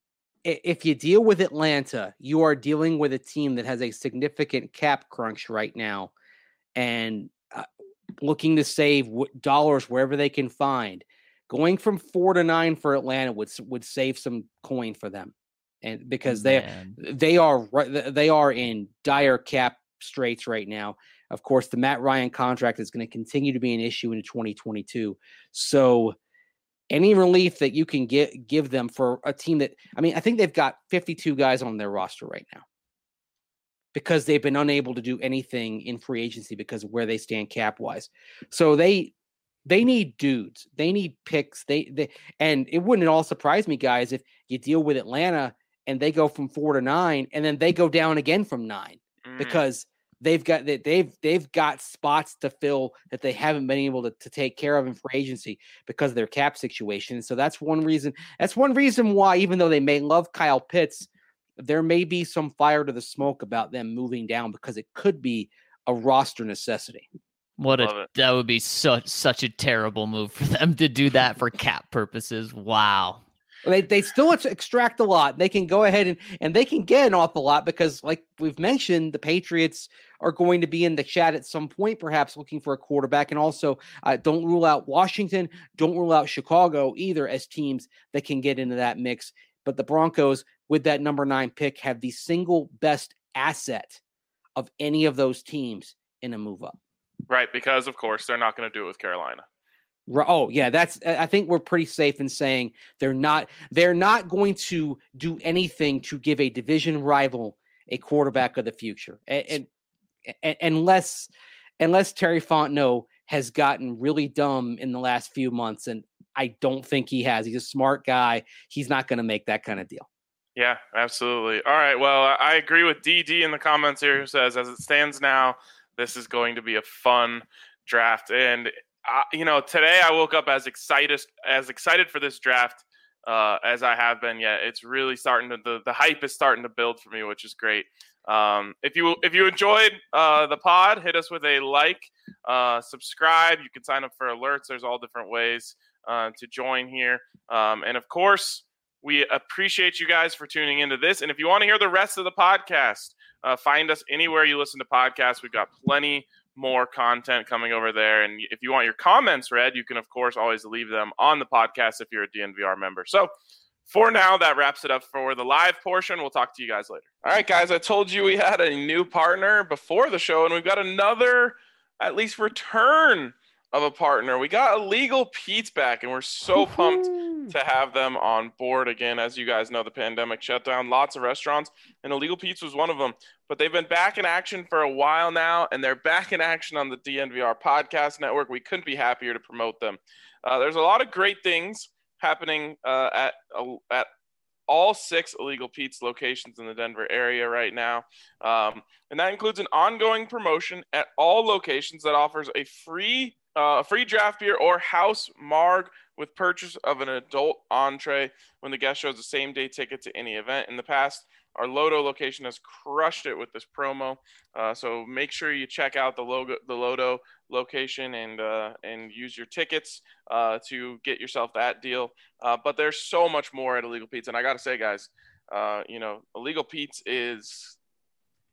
if you deal with Atlanta, you are dealing with a team that has a significant cap crunch right now and looking to save dollars wherever they can find. Going from 4 to 9 for Atlanta would save some coin for them. And because they are in dire cap straits right now. Of course, the Matt Ryan contract is going to continue to be an issue into 2022. So any relief that you can give them for a team that, I mean, I think they've got 52 guys on their roster right now because they've been unable to do anything in free agency because of where they stand cap wise. So they need dudes. They need picks. And it wouldn't at all surprise me, guys, if you deal with Atlanta and they go from 4 to 9 and then they go down again from 9 because they've got spots to fill that they haven't been able to take care of in free agency because of their cap situation. So that's one reason. That's one reason why, even though they may love Kyle Pitts, there may be some fire to the smoke about them moving down because it could be a roster necessity. That would be such a terrible move for them to do that for cap purposes. Wow. They still extract a lot. They can go ahead and they can get an awful lot because, like we've mentioned, the Patriots are going to be in the chat at some point, perhaps looking for a quarterback. And also, don't rule out Washington. Don't rule out Chicago either as teams that can get into that mix. But the Broncos, with that number 9 pick, have the single best asset of any of those teams in a move up. Right, because, of course, they're not going to do it with Carolina. Oh, yeah, I think we're pretty safe in saying they're not going to do anything to give a division rival a quarterback of the future. And unless Terry Fontenot has gotten really dumb in the last few months, and I don't think he has. He's a smart guy. He's not going to make that kind of deal. Yeah, absolutely. All right, well, I agree with DD in the comments here who says, as it stands now, this is going to be a fun draft. And today I woke up as excited for this draft as I have been yet. It's really starting to the hype is starting to build for me, which is great. If you enjoyed the pod, hit us with a like, subscribe. You can sign up for alerts. There's all different ways to join here. And of course, we appreciate you guys for tuning into this. And if you want to hear the rest of the podcast, find us anywhere you listen to podcasts. We've got plenty more content coming over there. And if you want your comments read, you can, of course, always leave them on the podcast if you're a DNVR member. So for now, that wraps it up for the live portion. We'll talk to you guys later. All right, guys, I told you we had a new partner before the show, and we've got another, at least, return of a partner. We got Illegal Pete's back, and we're so pumped to have them on board again. As you guys know, the pandemic shut down lots of restaurants, and Illegal Pete's was one of them. But they've been back in action for a while now, and they're back in action on the DNVR Podcast Network. We couldn't be happier to promote them. There's a lot of great things happening at all 6 Illegal Pete's locations in the Denver area right now. And that includes an ongoing promotion at all locations that offers a free draft beer or house marg with purchase of an adult entree when the guest shows a same-day ticket to any event. In the past, our Lodo location has crushed it with this promo. So make sure you check out the Lodo location and use your tickets to get yourself that deal. But there's so much more at Illegal Pete's. And I got to say, guys, Illegal Pete's is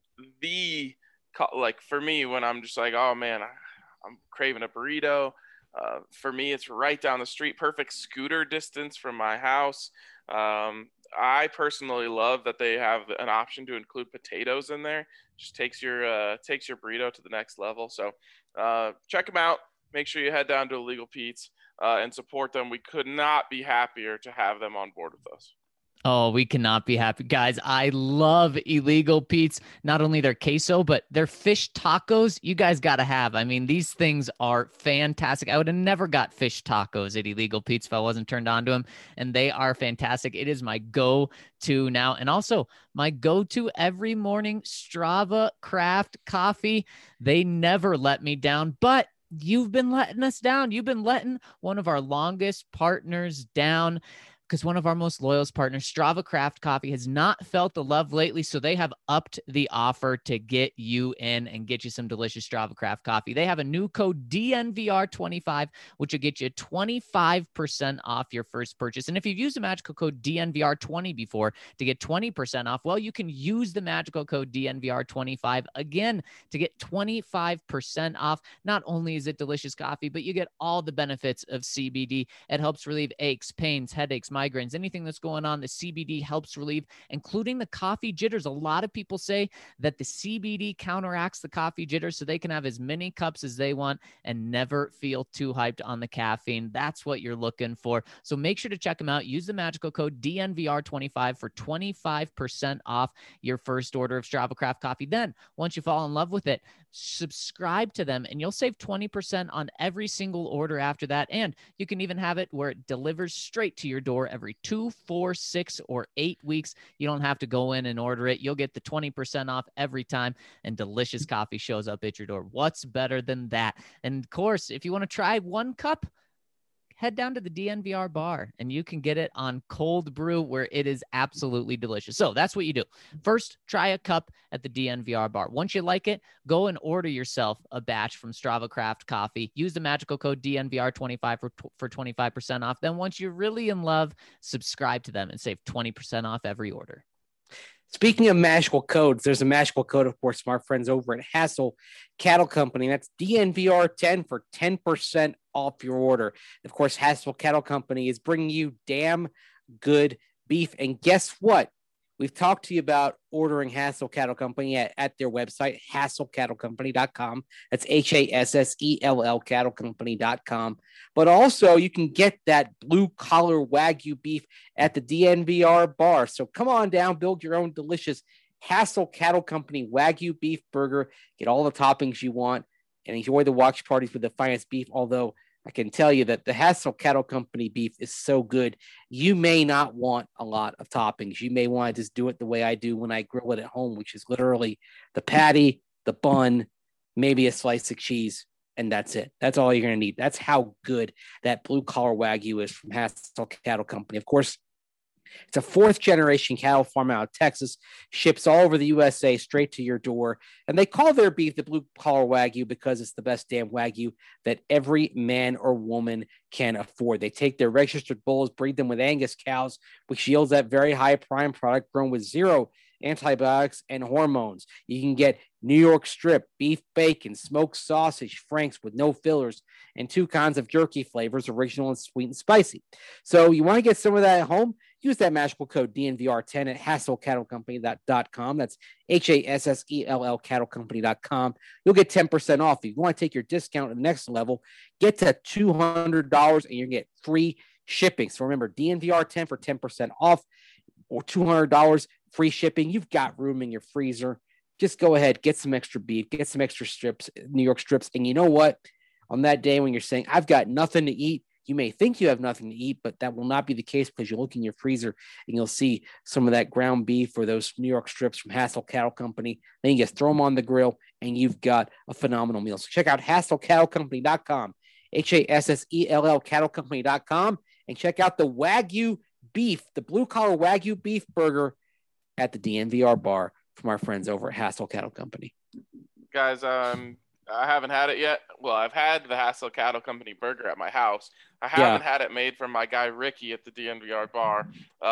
for me, when I'm just like, oh, man, I'm craving a burrito. For me, it's right down the street, perfect scooter distance from my house. I personally love that they have an option to include potatoes in there. Just takes your burrito to the next level. So check them out. Make sure you head down to Illegal Pete's and support them. We could not be happier to have them on board with us. Oh, we cannot be happy. Guys, I love Illegal Pete's. Not only their queso, but their fish tacos, you guys got to have. I mean, these things are fantastic. I would have never got fish tacos at Illegal Pete's if I wasn't turned on to them, and they are fantastic. It is my go-to now, and also my go-to every morning, Strava Craft Coffee. They never let me down, but you've been letting us down. You've been letting one of our longest partners down, because one of our most loyal partners, Strava Craft Coffee, has not felt the love lately. So they have upped the offer to get you in and get you some delicious Strava Craft coffee. They have a new code DNVR25, which will get you 25% off your first purchase. And if you've used the magical code DNVR20 before to get 20% off, well, you can use the magical code DNVR25 again to get 25% off. Not only is it delicious coffee, but you get all the benefits of CBD. It helps relieve aches, pains, headaches, migraines, anything that's going on, the CBD helps relieve, including the coffee jitters. A lot of people say that the CBD counteracts the coffee jitters so they can have as many cups as they want and never feel too hyped on the caffeine. That's what you're looking for. So make sure to check them out. Use the magical code DNVR25 for 25% off your first order of Strava Craft coffee. Then, once you fall in love with it, subscribe to them and you'll save 20% on every single order after that. And you can even have it where it delivers straight to your door every 2, 4, 6, or 8 weeks. You don't have to go in and order it. You'll get the 20% off every time, and delicious coffee shows up at your door. What's better than that? And of course, if you want to try one cup, head down to the DNVR bar and you can get it on cold brew, where it is absolutely delicious. So that's what you do. First, try a cup at the DNVR bar. Once you like it, go and order yourself a batch from Strava Craft Coffee. Use the magical code DNVR25 for 25% off. Then once you're really in love, subscribe to them and save 20% off every order. Speaking of magical codes, there's a magical code, of course, from our friends over at Hassel Cattle Company. That's DNVR10 for 10% off your order. Of course, Hassel Cattle Company is bringing you damn good beef. And guess what? We've talked to you about ordering Hassel Cattle Company at their website, HassellCattleCompany.com. That's HASSELL CattleCompany.com. But also, you can get that blue-collar Wagyu beef at the DNVR bar. So come on down, build your own delicious Hassel Cattle Company Wagyu beef burger. Get all the toppings you want and enjoy the watch parties with the finest beef, although I can tell you that the Hassel Cattle Company beef is so good, you may not want a lot of toppings. You may want to just do it the way I do when I grill it at home, which is literally the patty, the bun, maybe a slice of cheese, and that's it. That's all you're going to need. That's how good that blue-collar Wagyu is from Hassel Cattle Company. Of course, it's a fourth-generation cattle farm out of Texas, ships all over the USA straight to your door. And they call their beef the blue-collar Wagyu because it's the best damn Wagyu that every man or woman can afford. They take their registered bulls, breed them with Angus cows, which yields that very high prime product grown with zero antibiotics and hormones. You can get New York strip, beef bacon, smoked sausage, franks with no fillers, and 2 kinds of jerky flavors, original and sweet and spicy. So you want to get some of that at home? Use that magical code DNVR10 at HassellCattleCompany.com. That's HASSELL CattleCompany.com. You'll get 10% off. If you want to take your discount to the next level, get to $200 and you get free shipping. So remember, DNVR10 for 10% off or $200 free shipping. You've got room in your freezer. Just go ahead, get some extra beef, get some extra strips, New York strips. And you know what? On that day when you're saying, I've got nothing to eat, you may think you have nothing to eat, but that will not be the case because you'll look in your freezer and you'll see some of that ground beef or those New York strips from Hassel Cattle Company. Then you just throw them on the grill and you've got a phenomenal meal. So check out HassellCattleCompany.com, HASSELL CattleCompany.com, and check out the Wagyu beef, the blue-collar Wagyu beef burger at the DNVR bar from our friends over at Hassel Cattle Company. Guys, I haven't had it yet. Well, I've had the Hassel Cattle Company burger at my house. I haven't had it made from my guy Ricky at the DNVR bar.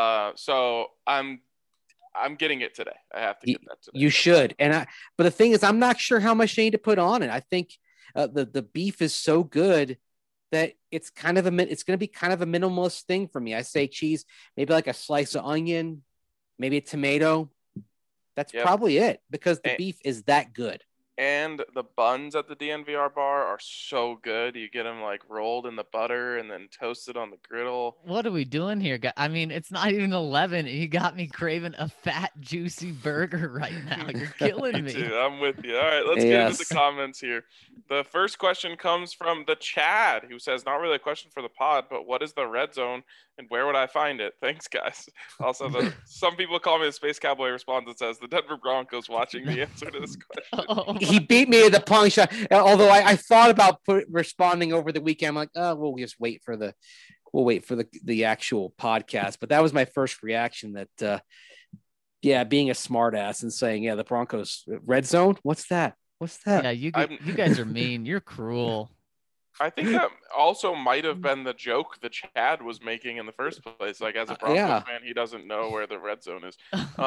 So I'm getting it today. I have to get that today. You should. But the thing is, I'm not sure how much you need to put on it. I think the beef is so good that it's going to be kind of a minimalist thing for me. I say cheese, maybe like a slice of onion, maybe a tomato. That's probably it, because the beef is that good. And the buns at the DNVR bar are so good. You get them like rolled in the butter and then toasted on the griddle. What are we doing here, guys? I mean, it's not even 11. You got me craving a fat, juicy burger right now. You're killing me. Too. I'm with you. All right, let's get into the comments here. The first question comes from the Chad, who says, not really a question for the pod, but what is the red zone and where would I find it? Thanks, guys. Also, some people call me the Space Cowboy responds and says, the Denver Broncos watching the answer to this question. He beat me to the punch. Although I thought about responding over the weekend. I'm like, oh, we'll just wait for the actual podcast. But that was my first reaction that, being a smart ass and saying, the Broncos red zone. What's that? Yeah, you guys are mean. You're cruel. I think that also might have been the joke the Chad was making in the first place. Like, as a Broncos fan, he doesn't know where the red zone is.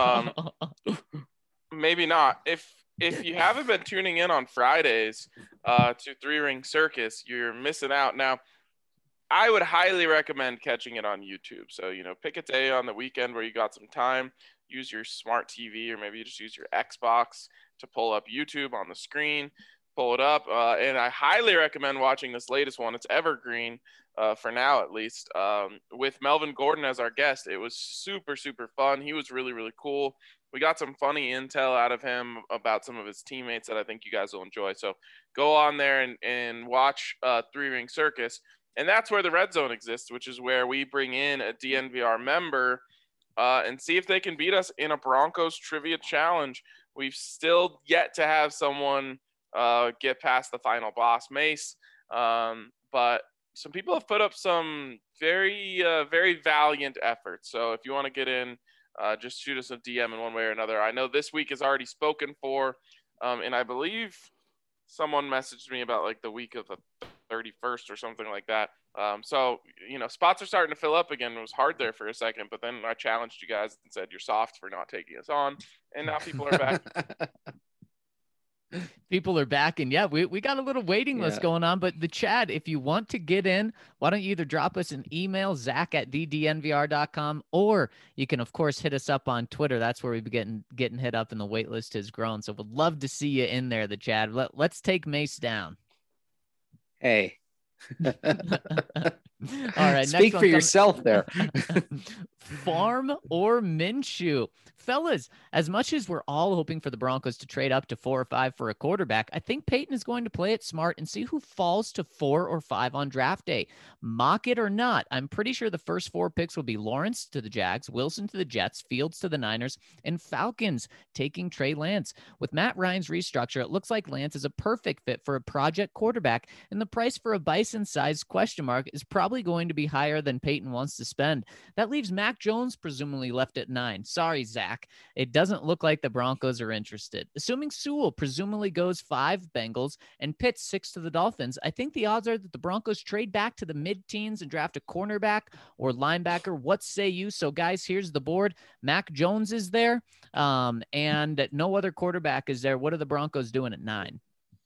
Maybe not. If you haven't been tuning in on Fridays to Three Ring Circus, you're missing out. Now, I would highly recommend catching it on YouTube. So, pick a day on the weekend where you got some time, use your smart TV, or maybe you just use your Xbox to pull up YouTube on the screen, pull it up. And I highly recommend watching this latest one. It's evergreen for now, at least, with Melvin Gordon as our guest. It was super, super fun. He was really, really cool. We got some funny intel out of him about some of his teammates that I think you guys will enjoy. So go on there and watch Three Ring Circus. And that's where the red zone exists, which is where we bring in a DNVR member and see if they can beat us in a Broncos trivia challenge. We've still yet to have someone get past the final boss, Mace. But some people have put up some very, very valiant efforts. So if you want to get in, just shoot us a DM in one way or another. I know this week is already spoken for, and I believe someone messaged me about like the week of the 31st or something like that. So, spots are starting to fill up again. It was hard there for a second, but then I challenged you guys and said, you're soft for not taking us on. And now people are back. People are back, and we got a little waiting list going on. But the Chad, if you want to get in, why don't you either drop us an email, zach@ddnvr.com, or you can, of course, hit us up on Twitter. That's where we've been getting hit up, and the wait list has grown. So we'd love to see you in there, the Chad. Let's take Mace down. Hey. All right. Speak for yourself there. Farm or Minshew? Fellas, as much as we're all hoping for the Broncos to trade up to 4 or 5 for a quarterback, I think Peyton is going to play it smart and see who falls to 4 or 5 on draft day. Mock it or not, I'm pretty sure the first 4 picks will be Lawrence to the Jags, Wilson to the Jets, Fields to the Niners, and Falcons taking Trey Lance. With Matt Ryan's restructure, it looks like Lance is a perfect fit for a project quarterback, and the price for a Bison-sized question mark is probably going to be higher than Peyton wants to spend. That leaves Mac Jones presumably left at 9. Sorry, Zach. It doesn't look like the Broncos are interested. Assuming Sewell presumably goes 5 Bengals and Pitts 6 to the Dolphins, I think the odds are that the Broncos trade back to the mid-teens and draft a cornerback or linebacker. What say you? So, guys, here's the board. Mac Jones is there, and no other quarterback is there. What are the Broncos doing at 9?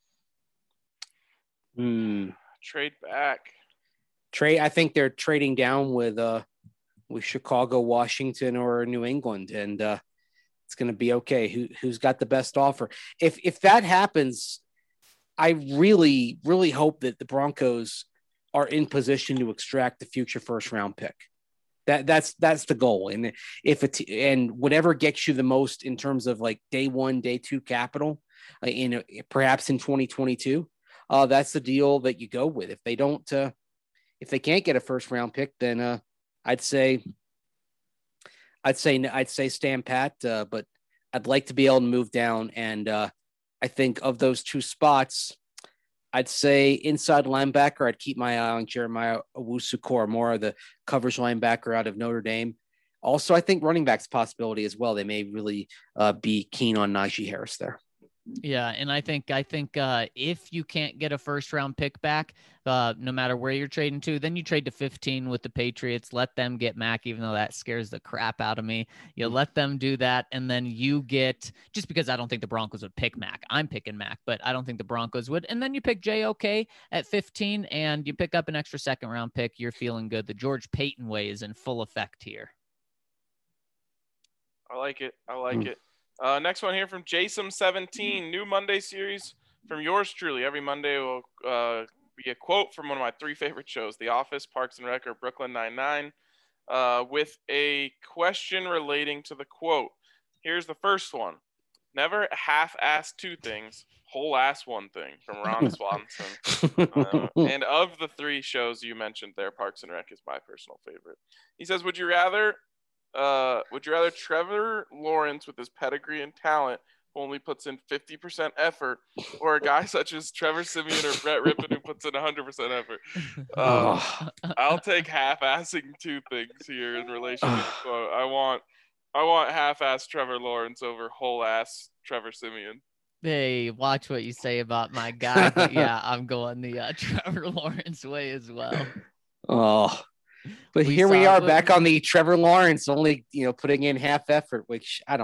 Trade back. I think they're trading down with Chicago, Washington, or New England, and it's going to be okay. Who's got the best offer? If that happens, I really, really hope that the Broncos are in position to extract the future first round pick. That's the goal. And and whatever gets you the most in terms of like day 1, day 2 capital, perhaps in 2022, that's the deal that you go with. If they can't get a first round pick, then I'd say stand pat, but I'd like to be able to move down. And I think of those 2 spots, I'd say inside linebacker, I'd keep my eye on Jeremiah Owusu-Koramoah, the coverage linebacker out of Notre Dame. Also, I think running back's possibility as well. They may really be keen on Najee Harris there. Yeah, and I think if you can't get a first round pick back, no matter where you're trading to, then you trade to 15 with the Patriots. Let them get Mac, even though that scares the crap out of me. You let them do that, and then you get, just because I don't think the Broncos would pick Mac. I'm picking Mac, but I don't think the Broncos would. And then you pick JOK at 15, and you pick up an extra second round pick. You're feeling good. The George Payton way is in full effect here. I like it. Next one here from Jason17, new Monday series from yours truly. Every Monday will be a quote from one of my 3 favorite shows, The Office, Parks and Rec, or Brooklyn Nine-Nine, with a question relating to the quote. Here's the first one. Never half-ass 2 things, whole-ass 1 thing, from Ron Swanson. And of the 3 shows you mentioned there, Parks and Rec is my personal favorite. He says, would you rather Trevor Lawrence with his pedigree and talent who only puts in 50% effort, or a guy such as Trevor Siemian or Brett Rippon who puts in 100% effort? I'll take half-assing 2 things here in relation to the quote. I want half-ass Trevor Lawrence over whole-ass Trevor Siemian. Hey, watch what you say about my guy. But yeah, I'm going the Trevor Lawrence way as well. Oh. But here we are back on the Trevor Lawrence, only, putting in half effort, which I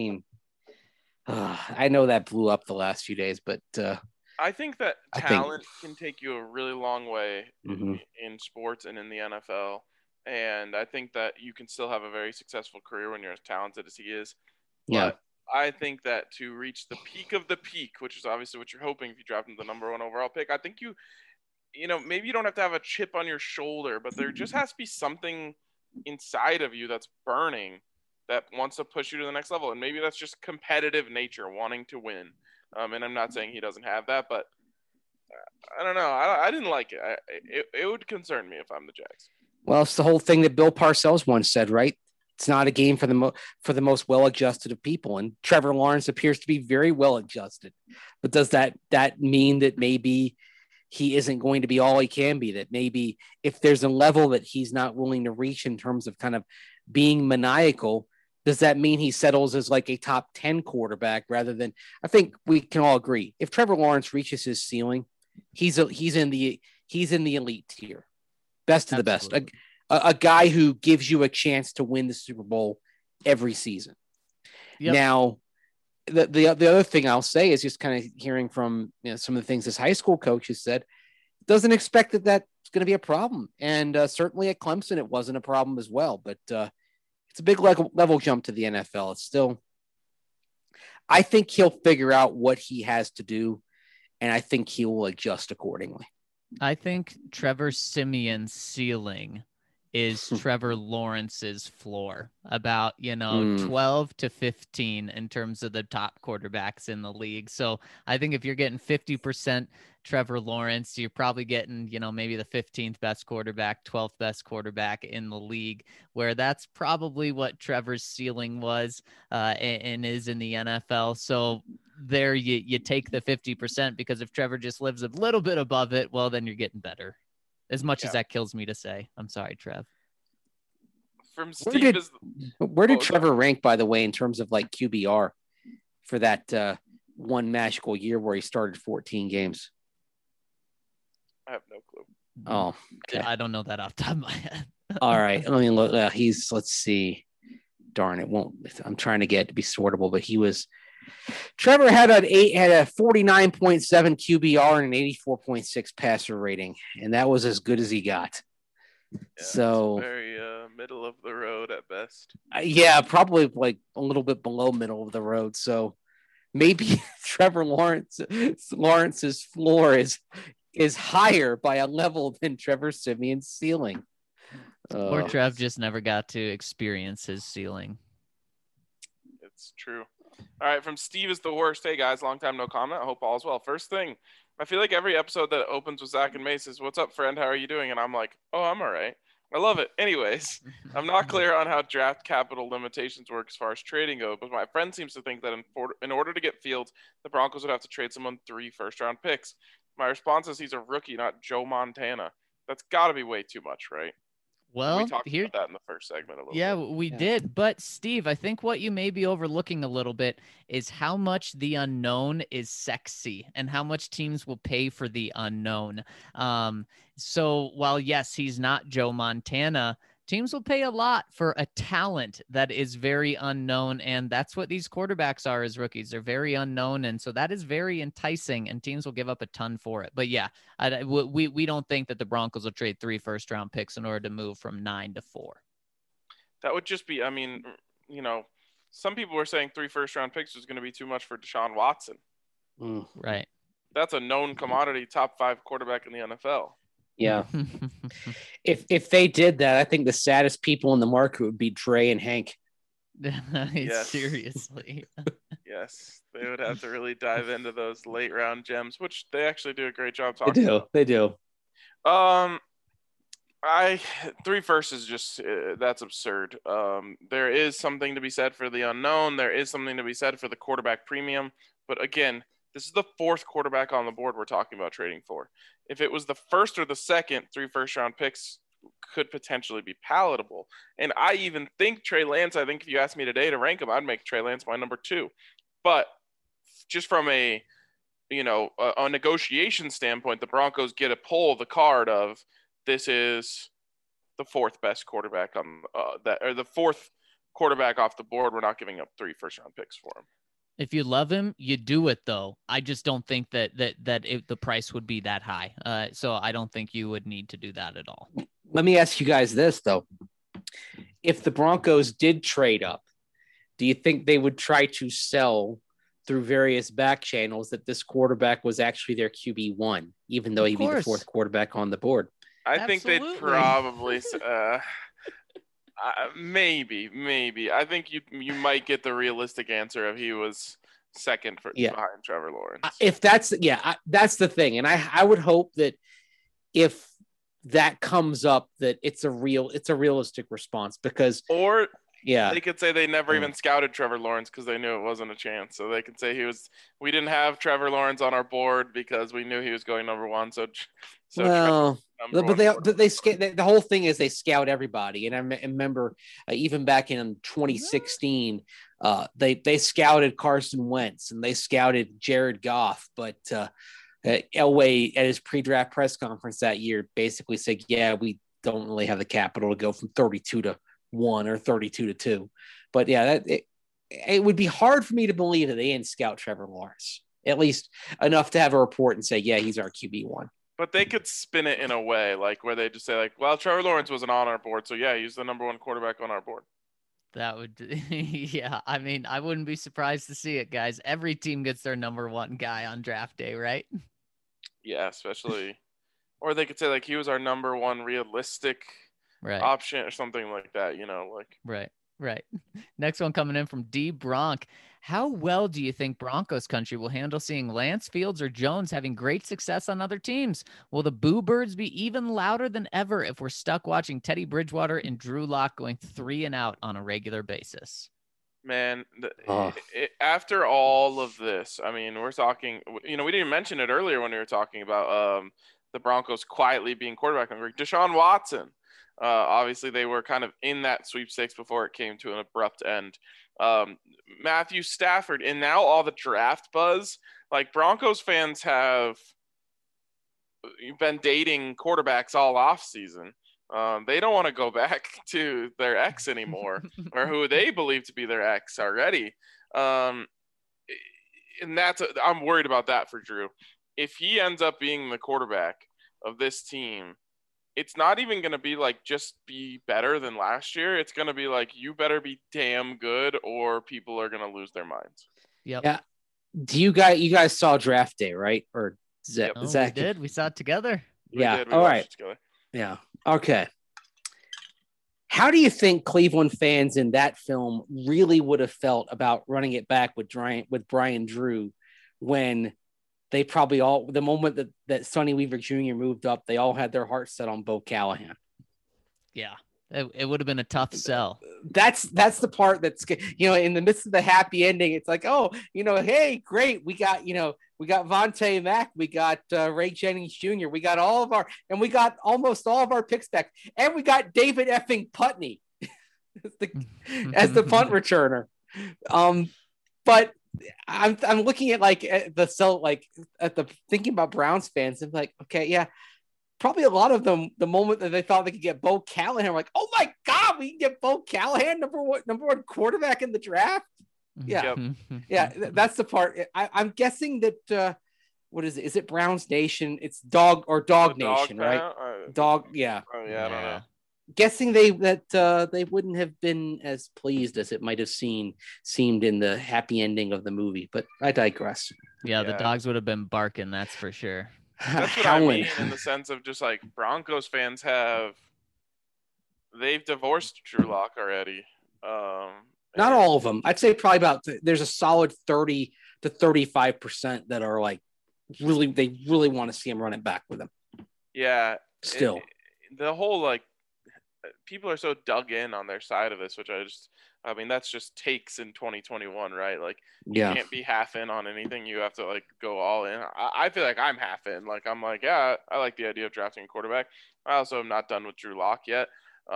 know that blew up the last few days, but I think that talent can take you a really long way in sports and in the NFL. And I think that you can still have a very successful career when you're as talented as he is. Yeah. But I think that to reach the peak of the peak, which is obviously what you're hoping if you draft him the number 1 overall pick, I think maybe you don't have to have a chip on your shoulder, but there just has to be something inside of you that's burning that wants to push you to the next level. And maybe that's just competitive nature, wanting to win. And I'm not saying he doesn't have that, but I don't know. I didn't like it. It would concern me if I'm the Jags. Well, it's the whole thing that Bill Parcells once said, right? It's not a game for the most well-adjusted of people. And Trevor Lawrence appears to be very well-adjusted. But does that mean that maybe he isn't going to be all he can be, that maybe if there's a level that he's not willing to reach in terms of kind of being maniacal, does that mean he settles as like a top 10 quarterback rather than, I think we can all agree, if Trevor Lawrence reaches his ceiling, he's in the elite tier, best of the best, a guy who gives you a chance to win the Super Bowl every season. Yep. Now, the other thing I'll say is just kind of hearing from some of the things this high school coach has said, doesn't expect that that's going to be a problem. And certainly at Clemson, it wasn't a problem as well. But it's a big level jump to the NFL. It's still, I think he'll figure out what he has to do, and I think he will adjust accordingly. I think Trevor Siemian's ceiling is Trevor Lawrence's floor, about 12 to 15 in terms of the top quarterbacks in the league. So I think if you're getting 50% Trevor Lawrence, you're probably getting maybe the 15th best quarterback, 12th best quarterback in the league, where that's probably what Trevor's ceiling was and is in the NFL. So there you take the 50%, because if Trevor just lives a little bit above it, well, then you're getting better. As much as that kills me to say. I'm sorry, Trev. From Steve, where did Trevor rank, by the way, in terms of like QBR for that one magical year where he started 14 games? I have no clue. Oh, okay. I don't know that off the top of my head. All right. Let me look. Let's see. Darn, it won't. I'm trying to get it to be sortable, but Trevor had a 49.7 QBR and an 84.6 passer rating, and that was as good as he got. Yeah, so very middle of the road at best. Yeah, probably like a little bit below middle of the road. So maybe Trevor Lawrence's floor is higher by a level than Trevor Siemian's ceiling. Or Trev just never got to experience his ceiling. It's true. All right, from Steve is the worst. Hey, guys, long time no comment. I hope all is well. First thing, I feel like every episode that opens with Zach and Mace says, "What's up, friend? How are you doing?" And I'm like, "Oh, I'm all right." I love it. Anyways, I'm not clear on how draft capital limitations work as far as trading go, but my friend seems to think that in order to get Fields, the Broncos would have to trade someone 3 first-round picks. My response is he's a rookie, not Joe Montana. That's got to be way too much, right? Well, we talked about that in the first segment a little bit. We did. But Steve, I think what you may be overlooking a little bit is how much the unknown is sexy and how much teams will pay for the unknown. So while yes, he's not Joe Montana, teams will pay a lot for a talent that is very unknown. And that's what these quarterbacks are as rookies. They're very unknown. And so that is very enticing and teams will give up a ton for it. But yeah, we don't think that the Broncos will trade 3 first-round picks in order to move from 9 to 4. That would just be, I mean, some people were saying 3 first-round picks was going to be too much for Deshaun Watson. Right. That's a known commodity, top 5 quarterback in the NFL. Yeah. If they did that, I think the saddest people in the market would be Dre and Hank. Yes. Seriously. Yes, they would have to really dive into those late round gems, which they actually do a great job talking about. They do. 3 firsts is just that's absurd. There is something to be said for the unknown. There is something to be said for the quarterback premium. But again, this is the 4th quarterback on the board we're talking about trading for. If it was the first or the second, 3 first-round picks could potentially be palatable. And I even think Trey Lance, I think if you asked me today to rank him, I'd make Trey Lance my number 2. But just from a negotiation standpoint, the Broncos get to pull the card of this is the 4th best quarterback on the 4th quarterback off the board. We're not giving up 3 first-round picks for him. If you love him, you do it though. I just don't think that the price would be that high. So I don't think you would need to do that at all. Let me ask you guys this though. If the Broncos did trade up, do you think they would try to sell through various back channels that this quarterback was actually their QB1, even though he'd be the 4th quarterback on the board? I think they'd probably maybe. I think you might get the realistic answer if he was second behind Trevor Lawrence. If that's the thing, and I would hope that if that comes up, that it's a realistic response because they could say they never even scouted Trevor Lawrence because they knew it wasn't a chance. So they could say we didn't have Trevor Lawrence on our board because we knew he was going number 1. But the whole thing is they scout everybody. And I remember even back in 2016, they scouted Carson Wentz and they scouted Jared Goff. But Elway at his pre-draft press conference that year basically said, yeah, we don't really have the capital to go from 32 to 1 or 32 to 2. But yeah, it would be hard for me to believe that they didn't scout Trevor Lawrence, at least enough to have a report and say, yeah, he's our QB1. But they could spin it in a way like where they just say like, well, Trevor Lawrence wasn't on our board. So yeah, he's the number 1 quarterback on our board. That would, yeah. I mean, I wouldn't be surprised to see it, guys. Every team gets their number 1 guy on draft day, right? Yeah, especially, or they could say like he was our number 1 realistic option or something like that, Right. Next one coming in from D Bronk. How well do you think Broncos country will handle seeing Lance, Fields, or Jones having great success on other teams? Will the boo birds be even louder than ever if we're stuck watching Teddy Bridgewater and Drew Lock going 3 and out on a regular basis? Man, after all of this, I mean, we're talking, we didn't mention it earlier when we were talking about the Broncos quietly being quarterback hungry. Deshaun Watson. Obviously, they were kind of in that sweepstakes before it came to an abrupt end. Matthew Stafford, and now all the draft buzz. Like, Broncos fans have been dating quarterbacks all off season. They don't want to go back to their ex anymore, or who they believe to be their ex already. And I'm worried about that for Drew. If he ends up being the quarterback of this team, it's not even going to be like just be better than last year. It's going to be like, you better be damn good or people are going to lose their minds. Yep. Yeah. Do you guys saw draft day, right? Or Zach? We did. We saw it together. Yeah. All right. Yeah. Okay. How do you think Cleveland fans in that film really would have felt about running it back with Brian Drew when they probably all, the moment that Sonny Weaver Jr. moved up, they all had their hearts set on Bo Callahan? Yeah. It would have been a tough sell. That's the part that's, in the midst of the happy ending, it's like, oh, hey, great, we got Vontae Mack, we got Ray Jennings Jr., we got we got almost all of our picks back, and we got David effing Putney as the punt returner. But I'm looking at thinking about Browns fans, and like, okay, yeah. Probably a lot of them, the moment that they thought they could get Bo Callahan, like, oh my God, we can get Bo Callahan, number one quarterback in the draft. Yeah. Yeah. That's the part. I'm guessing that, what is it? Is it Browns Nation? It's Dog Nation, right? Dog. Yeah. Oh, yeah. I don't know. Guessing they wouldn't have been as pleased as it might have seemed in the happy ending of the movie, but I digress. Yeah. The dogs would have been barking. That's for sure. That's what I mean, in the sense of just like Broncos fans they've divorced Drew Lock already. Not all of them. I'd say probably there's a solid 30 to 35% that are like they really want to see him run it back with him. Yeah. Still. The whole like people are so dug in on their side of this, which that's just takes in 2021, right? Like you can't be half in on anything. You have to like go all in. I feel like I'm half in. Like I'm like, yeah, I like the idea of drafting a quarterback. I also am not done with Drew Lock yet.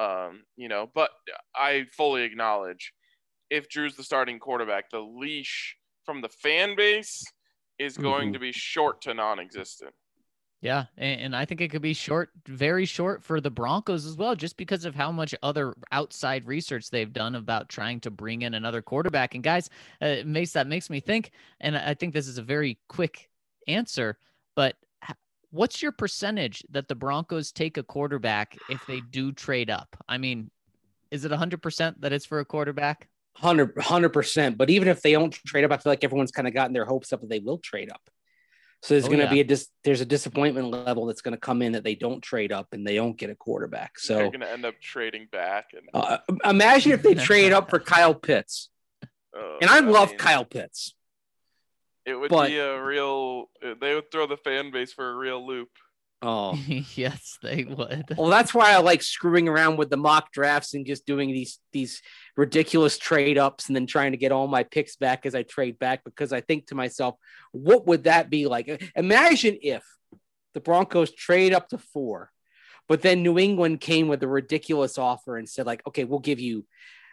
But I fully acknowledge if Drew's the starting quarterback, the leash from the fan base is going to be short to non-existent. Yeah, and I think it could be short, very short for the Broncos as well, just because of how much other outside research they've done about trying to bring in another quarterback. And guys, that makes me think, and I think this is a very quick answer, but what's your percentage that the Broncos take a quarterback if they do trade up? I mean, is it 100% that it's for a quarterback? 100%. But even if they don't trade up, I feel like everyone's kind of gotten their hopes up that they will trade up. So there's going to be there's a disappointment level that's going to come in that they don't trade up and they don't get a quarterback. So they're going to end up trading back. And imagine if they trade up for Kyle Pitts. And I love Kyle Pitts. It would be they would throw the fan base for a real loop. Oh, yes, they would. Well, that's why I like screwing around with the mock drafts and just doing these ridiculous trade ups and then trying to get all my picks back as I trade back, because I think to myself, what would that be like? Imagine if the Broncos trade up to 4, but then New England came with a ridiculous offer and said like, okay, we'll give you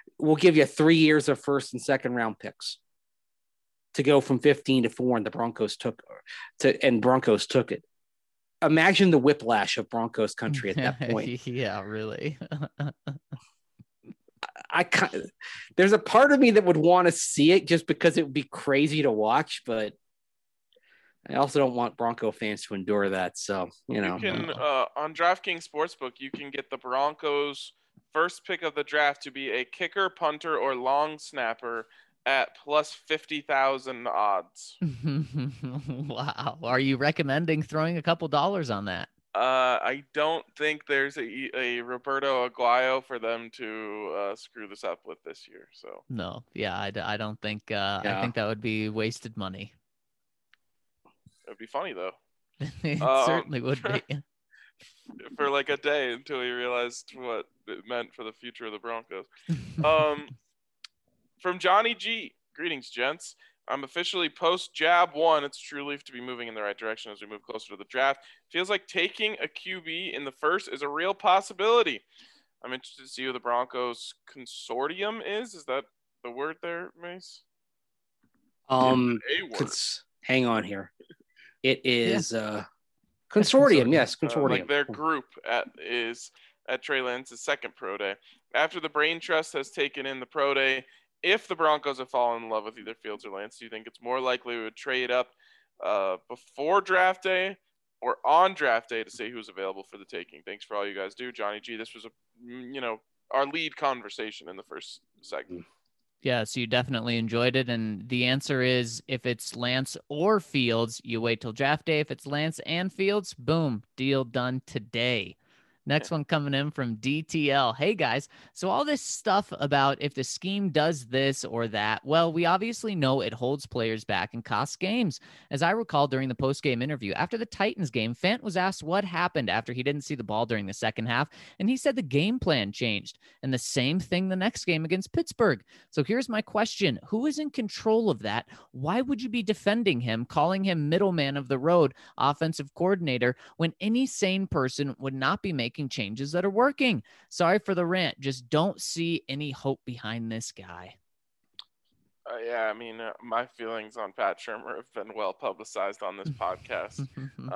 3 years of first and second round picks to go from 15 to 4, and the Broncos took it. Imagine the whiplash of Broncos country at that point. Yeah, really. There's a part of me that would want to see it just because it would be crazy to watch, but I also don't want Bronco fans to endure that. So, you can on DraftKings Sportsbook, you can get the Broncos' first pick of the draft to be a kicker, punter, or long snapper at plus 50,000 odds. Wow. Are you recommending throwing a couple dollars on that? I don't think there's a Roberto Aguayo for them to screw this up with this year. So no, yeah, I don't think. I think that would be wasted money. It would be funny though. It certainly would be. For like a day until he realized what it meant for the future of the Broncos. From Johnny G. Greetings, gents. I'm officially post-Jab 1. It's true relief to be moving in the right direction as we move closer to the draft. Feels like taking a QB in the first is a real possibility. I'm interested to see who the Broncos consortium is. Is that the word there, Mace? Hang on here. It is consortium. Yes, consortium. Like their group is at Trey Lance's second pro day. After the Brain Trust has taken in the pro day, if the Broncos have fallen in love with either Fields or Lance, do you think it's more likely we would trade up before draft day or on draft day to say who's available for the taking? Thanks for all you guys do. Johnny G, this was our lead conversation in the first segment. Yeah, so you definitely enjoyed it. And the answer is if it's Lance or Fields, you wait till draft day. If it's Lance and Fields, boom, deal done today. Next one coming in from DTL. Hey guys, so all this stuff about if the scheme does this or that, well, we obviously know it holds players back and costs games. As I recall during the post-game interview, after the Titans game, Fant was asked what happened after he didn't see the ball during the second half, and he said the game plan changed. And the same thing the next game against Pittsburgh. So here's my question. Who is in control of that? Why would you be defending him, calling him middleman of the road, offensive coordinator, when any sane person would not be making changes that are working? Sorry for the rant. Just don't see any hope behind this guy. Yeah, I mean, my feelings on Pat Shurmur have been well publicized on this podcast.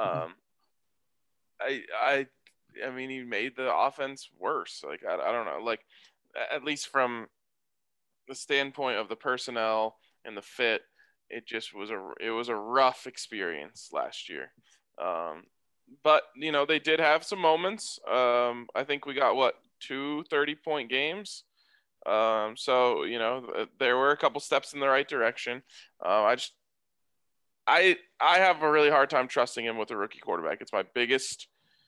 I mean, he made the offense worse. Like, I don't know. Like, at least from the standpoint of the personnel and the fit, it just was a rough experience last year. But, you know, they did have some moments. I think we got, 2 30-point games. So, you know, there were a couple steps in the right direction. I have a really hard time trusting him with a rookie quarterback. It's my biggest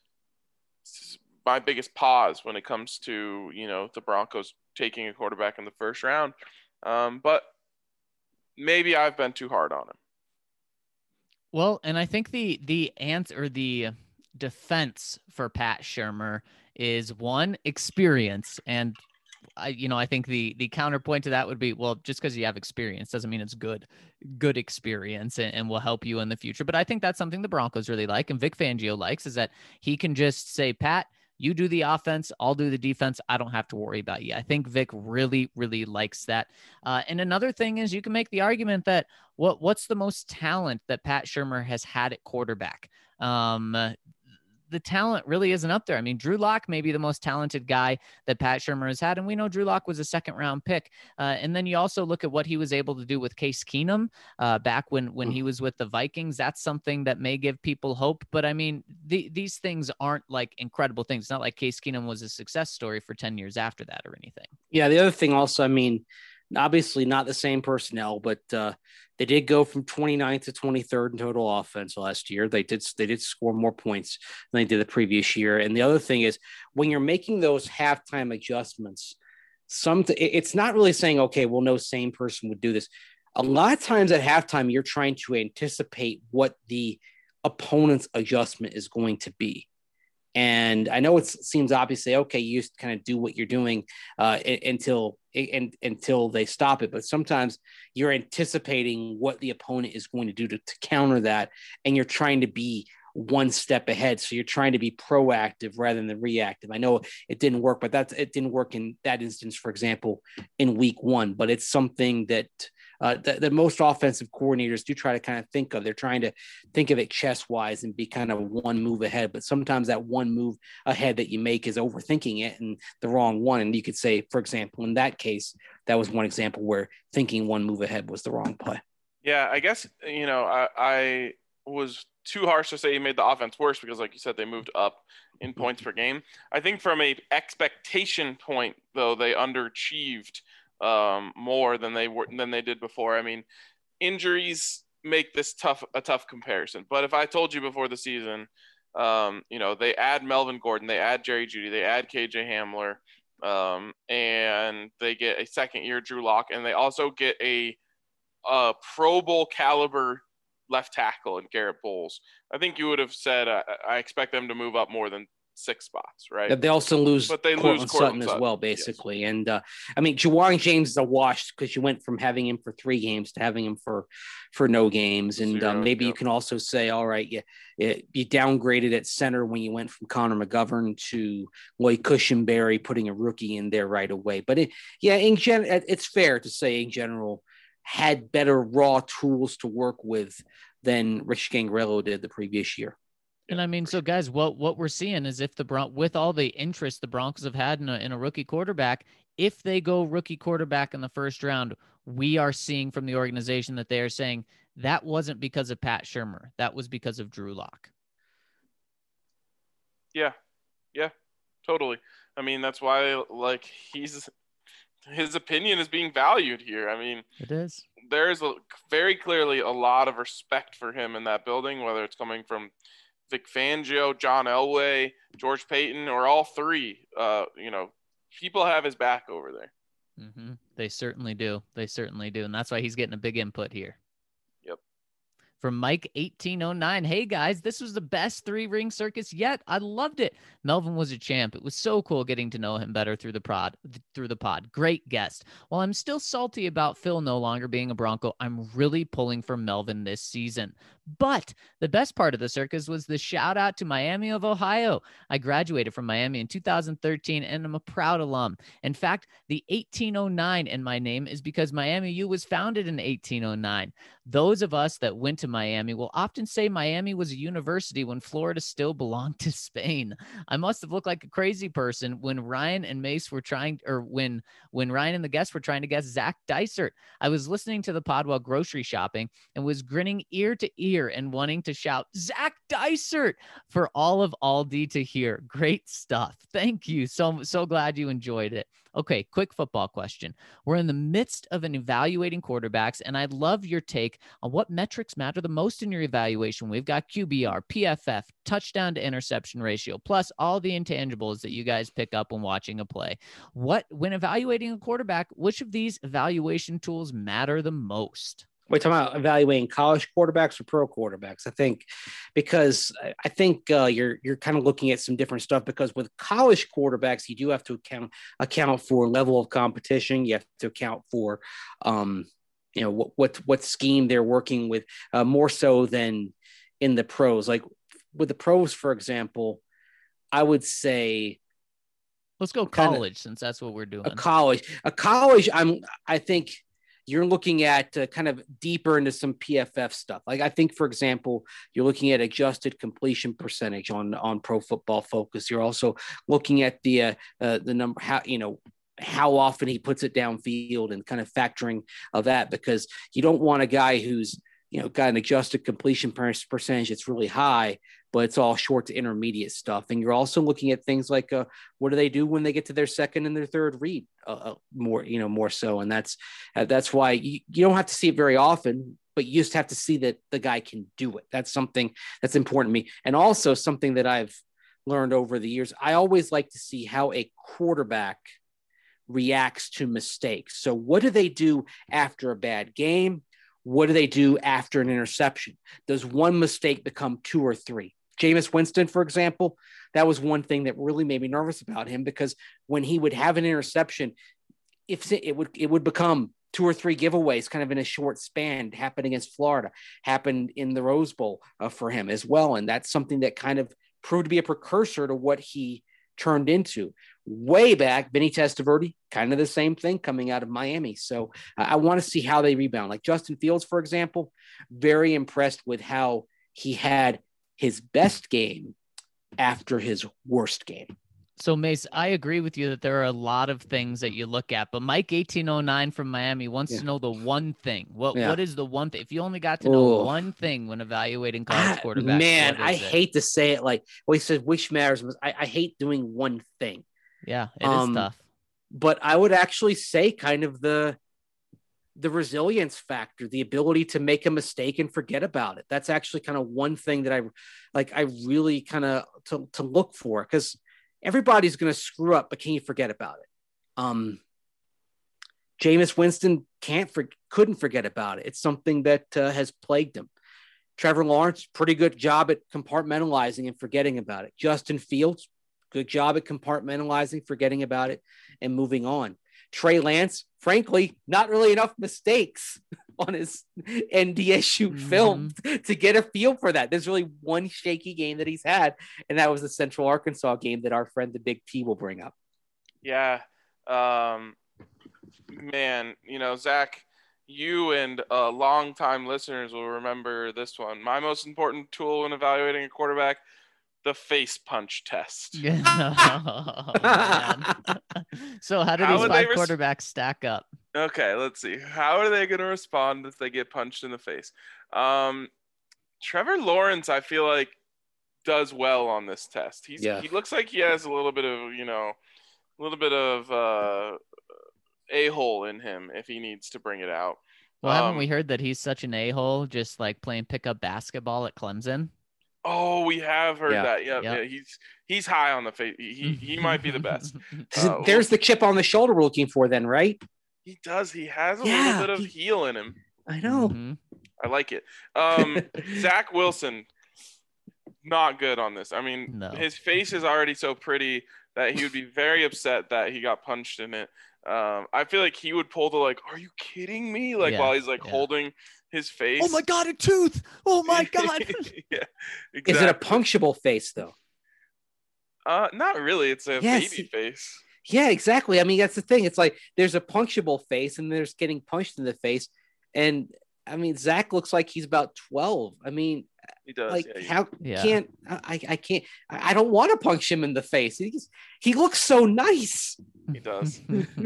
pause when it comes to, you know, the Broncos taking a quarterback in the first round. But maybe I've been too hard on him. Well, and I think the answer, the defense for Pat Shurmur is one, experience. And I think the counterpoint to that would be, well, just because you have experience doesn't mean it's good experience and will help you in the future. But I think that's something the Broncos really like, and Vic Fangio likes, is that he can just say, Pat, you do the offense, I'll do the defense. I don't have to worry about you. I think Vic really, really likes that. And another thing is, you can make the argument that what's the most talent that Pat Shurmur has had at quarterback? The talent really isn't up there. I mean, Drew Lock may be the most talented guy that Pat Shurmur has had, and we know Drew Lock was a second-round pick. And then you also look at what he was able to do with Case Keenum back when he was with the Vikings. That's something that may give people hope. But, I mean, these things aren't like incredible things. It's not like Case Keenum was a success story for 10 years after that or anything. Yeah, the other thing also, I mean, obviously not the same personnel, but they did go from 29th to 23rd in total offense last year. They did score more points than they did the previous year. And the other thing is, when you're making those halftime adjustments, it's not really saying, okay, well, no same person would do this. A lot of times at halftime, you're trying to anticipate what the opponent's adjustment is going to be. And I know it seems obviously, okay, you just kind of do what you're doing until they stop it. But sometimes you're anticipating what the opponent is going to do to counter that. And you're trying to be one step ahead. So you're trying to be proactive rather than reactive. I know it didn't work, but it didn't work in that instance, for example, in week 1. But it's something that most offensive coordinators do try to kind of think of. They're trying to think of it chess-wise and be kind of one move ahead. But sometimes that one move ahead that you make is overthinking it and the wrong one. And you could say, for example, in that case, that was one example where thinking one move ahead was the wrong play. Yeah, I guess, you know, I was too harsh to say he made the offense worse because, like you said, they moved up in points per game. I think from a expectation point, though, they underachieved more than they did before. I mean, injuries make this a tough comparison. But if I told you before the season, you know, they add Melvin Gordon, they add Jerry Jeudy, they add KJ Hamler, and they get a second-year Drew Lock, and they also get a Pro Bowl caliber left tackle in Garrett Bowles, I think you would have said, I expect them to move up more than 6 spots, right? Yeah, they also lose, but they Courtland lose Courtland Sutton as well, basically. Yes. And I mean, Jawaan James is a wash because you went from having him for 3 games to having him for no games. And 0, maybe you can also say, all right, you downgraded at center when you went from Connor McGovern to Lloyd Cushenberry, putting a rookie in there right away. But it's fair to say in general, had better raw tools to work with than Rich Gangrello did the previous year. And I mean, so guys, what we're seeing is if with all the interest the Broncos have had in a rookie quarterback, if they go rookie quarterback in the first round, we are seeing from the organization that they are saying that wasn't because of Pat Shurmur. That was because of Drew Lock. Yeah, totally. I mean, that's why, like, his opinion is being valued here. I mean, it is. There is very clearly a lot of respect for him in that building, whether it's coming from Vic Fangio, John Elway, George Payton, or all three. People have his back over there. Mm-hmm. They certainly do. They certainly do. And that's why he's getting a big input here. Yep. From Mike 1809, hey guys, this was the best 3-ring circus yet. I loved it. Melvin was a champ. It was so cool getting to know him better through the pod. Great guest. While I'm still salty about Phil no longer being a Bronco, I'm really pulling for Melvin this season. But the best part of the circus was the shout out to Miami of Ohio. I graduated from Miami in 2013 and I'm a proud alum. In fact, the 1809 in my name is because Miami U was founded in 1809. Those of us that went to Miami will often say Miami was a university when Florida still belonged to Spain. I must have looked like a crazy person when Ryan and Mace were trying, or when Ryan and the guests were trying to guess Zach Dysert. I was listening to the pod while grocery shopping and was grinning ear to ear and wanting to shout Zach Dysert for all of Aldi to hear. Great stuff. Thank you. So glad you enjoyed it. Okay, quick football question. We're in the midst of an evaluating quarterbacks, and I'd love your take on what metrics matter the most in your evaluation. We've got QBR, PFF, touchdown to interception ratio, plus all the intangibles that you guys pick up when watching a play. When evaluating a quarterback, which of these evaluation tools matter the most? We're talking about evaluating college quarterbacks or pro quarterbacks, I think, because I think you're kind of looking at some different stuff. Because with college quarterbacks, you do have to account for level of competition. You have to account for, what scheme they're working with, more so than in the pros. Like with the pros, for example, I would say, let's go college, since that's what we're doing. A college. I think you're looking at kind of deeper into some PFF stuff. Like I think, for example, you're looking at adjusted completion percentage on Pro Football Focus. You're also looking at the number, how often he puts it downfield and kind of factoring of that, because you don't want a guy who's, got an adjusted completion percentage that's really high, but it's all short to intermediate stuff. And you're also looking at things like what do they do when they get to their second and their third read more so. And that's why you don't have to see it very often, but you just have to see that the guy can do it. That's something that's important to me. And also something that I've learned over the years, I always like to see how a quarterback reacts to mistakes. So what do they do after a bad game? What do they do after an interception? Does one mistake become 2 or 3? Jameis Winston, for example, that was one thing that really made me nervous about him, because when he would have an interception, if it would become 2 or 3 giveaways kind of in a short span. It happened against Florida, happened in the Rose Bowl for him as well. And that's something that kind of proved to be a precursor to what he turned into. Way back, Vinny Testaverde, kind of the same thing coming out of Miami. So I want to see how they rebound. Like Justin Fields, for example, very impressed with how he had his best game after his worst game. So, Mace, I agree with you that there are a lot of things that you look at, but Mike 1809 from Miami wants to know the one thing. What is the one thing? If you only got to know one thing when evaluating college quarterbacks, man, I hate to say it. Like, he said, which matters. I hate doing one thing. Yeah, it is tough. But I would actually say kind of the resilience factor, the ability to make a mistake and forget about it. That's actually kind of one thing that I really kind of to look for, because everybody's going to screw up, but can you forget about it? Jameis Winston couldn't forget about it. It's something that has plagued him. Trevor Lawrence, pretty good job at compartmentalizing and forgetting about it. Justin Fields, good job at compartmentalizing, forgetting about it, and moving on. Trey Lance, frankly, not really enough mistakes on his NDSU film to get a feel for that. There's really one shaky game that he's had, and that was the Central Arkansas game that our friend the Big T will bring up. Yeah. Man, Zach, you and longtime listeners will remember this one. My most important tool when evaluating a quarterback, the face punch test. Oh, man. So how do these 5 quarterbacks stack up? Okay, let's see. How are they going to respond if they get punched in the face? Trevor Lawrence, I feel like, does well on this test. He looks like he has a little bit of a-hole in him if he needs to bring it out. Well, haven't we heard that he's such an a-hole just like playing pickup basketball at Clemson? Oh, we have heard Yeah. that. Yeah, Yep. yeah, he's high on the face. He might be the best. There's the chip on the shoulder we're looking for then, right? He does. He has a Yeah, little bit of heel in him. I know. Mhm. I like it. Zach Wilson, not good on this. I mean, No. his face is already so pretty that he would be very upset that he got punched in it. I feel like he would pull the like, "Are you kidding me?" Like Yeah, while he's like yeah. holding his face. Oh my God, a tooth! Oh my God! Yeah, exactly. Is it a punctuable face though? Not really. It's a Yes. baby face. Yeah, exactly. I mean, that's the thing. It's like there's a punctuable face and there's getting punched in the face. And I mean, Zach looks like he's about 12. I mean, He does. like yeah, how Yeah. can't I can't I don't want to punch him in the face. He looks so nice. he does.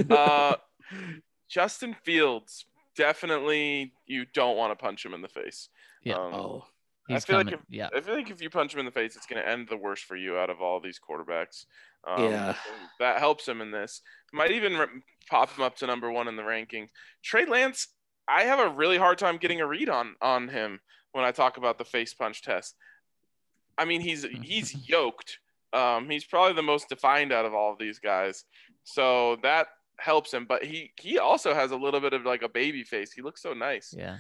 Justin Fields, definitely you don't want to punch him in the face. Yeah. Oh, He's feel like coming. Yeah. I feel like if you punch him in the face, it's going to end the worst for you out of all these quarterbacks. Yeah. That helps him in this. Might even pop him up to number 1 in the rankings. Trey Lance, I have a really hard time getting a read on him when I talk about the face punch test. I mean, he's yoked. He's probably the most defined out of all of these guys. So that helps him. But he also has a little bit of like a baby face. He looks so nice. Yeah.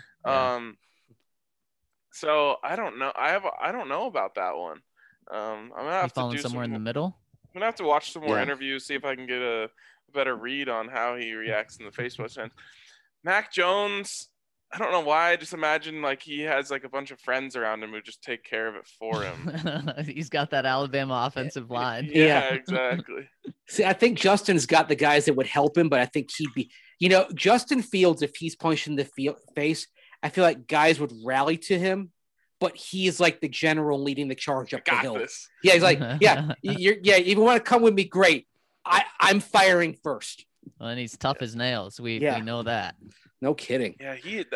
So I don't know. I don't know about that one. I'm gonna have He's to falling do somewhere in the some. middle. I'm gonna have to watch some more Yeah. interviews, see if I can get a better read on how he reacts in the face punch. Mac Jones, I don't know why. I just imagine like he has like a bunch of friends around him who just take care of it for him. He's got that Alabama offensive line. Yeah, exactly. See, I think Justin's got the guys that would help him, but I think he'd be, Justin Fields, if he's punched in the face, I feel like guys would rally to him, but he is like the general leading the charge up the Got hill. this. Yeah, he's like, if you want to come with me, great. I'm firing first. Well, and he's tough as nails. We know that. No kidding. Yeah,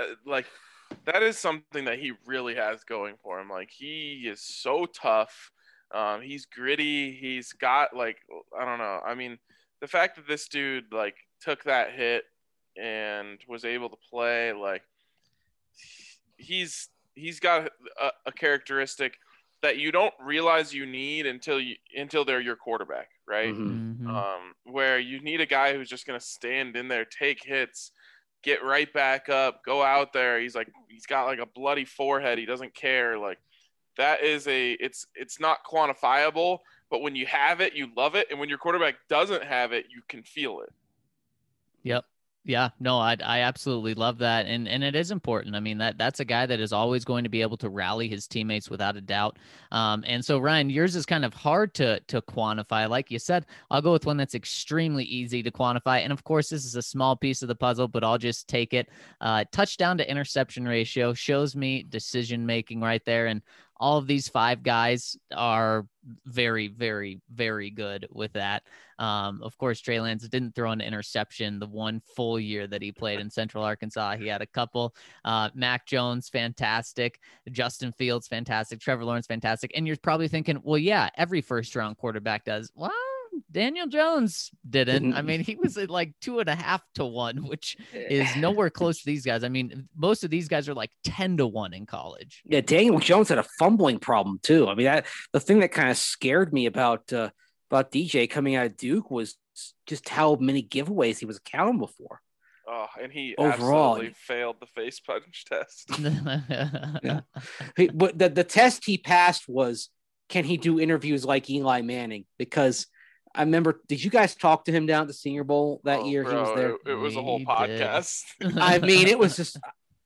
that is something that he really has going for him. Like he is so tough. He's gritty. He's got like, I don't know. I mean, the fact that this dude like took that hit and was able to play, like he's got a characteristic that you don't realize you need until they're your quarterback, right? Mhm. Mhm. Where you need a guy who's just going to stand in there, take hits, get right back up, go out there. He's got like a bloody forehead. He doesn't care. Like that is it's not quantifiable, but when you have it, you love it. And when your quarterback doesn't have it, you can feel it. Yep. Yeah, no, I absolutely love that. And it is important. I mean, that's a guy that is always going to be able to rally his teammates without a doubt. And so Ryan, yours is kind of hard to quantify. Like you said, I'll go with one that's extremely easy to quantify. And of course, this is a small piece of the puzzle, but I'll just take it. Touchdown to interception ratio shows me decision making right there. And all of these 5 guys are very, very, very good with that. Of course, Trey Lance didn't throw an interception the one full year that he played in Central Arkansas. He had a couple. Mac Jones, fantastic. Justin Fields, fantastic. Trevor Lawrence, fantastic. And you're probably thinking, well, yeah, every first-round quarterback does. Well, Daniel Jones didn't. I mean, he was at like 2.5 to 1, which is nowhere close to these guys. I mean, most of these guys are like 10 to 1 in college. Yeah, Daniel Jones had a fumbling problem too. I mean, the thing that kind of scared me about DJ coming out of Duke was just how many giveaways he was accountable for. Oh, and he Overall, absolutely failed the face punch test. Yeah. But the test he passed was, can he do interviews like Eli Manning? Because I remember, did you guys talk to him down at the Senior Bowl that year? Bro, he was there. It was a whole We podcast. I mean, it was just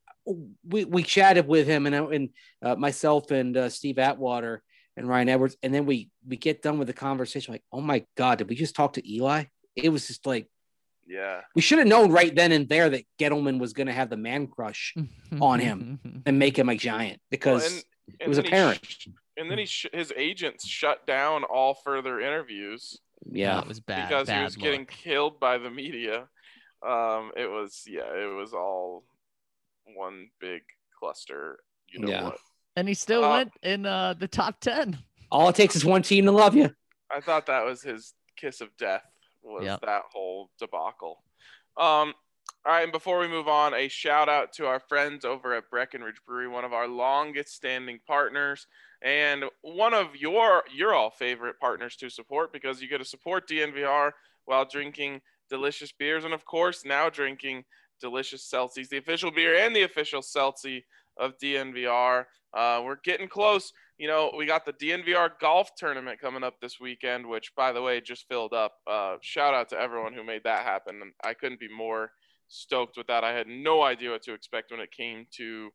we chatted with him and myself and Steve Atwater and Ryan Edwards, and then we get done with the conversation like, oh my God, did we just talk to Eli? It was just like, Yeah. we should have known right then and there that Gettleman was going to have the man crush on him and make him a giant because it was apparent. And then his agents shut down all further interviews. Yeah, it was bad because he was look. getting killed by the media. It was all one big cluster. You know what? And he still went in the top 10. All it takes is one team to love you. I thought that was his kiss of death, was Yep. that whole debacle. All right, and before we move on, a shout out to our friends over at Breckenridge Brewery, one of our longest standing partners and one of your all favorite partners to support, because you get to support DNVR while drinking delicious beers and, of course, now drinking delicious Celsius, the official beer and the official Celsius of DNVR. We're getting close. You know, we got the DNVR golf tournament coming up this weekend, which, by the way, just filled up. Shout out to everyone who made that happen. I couldn't be more stoked with that. I had no idea what to expect when it came to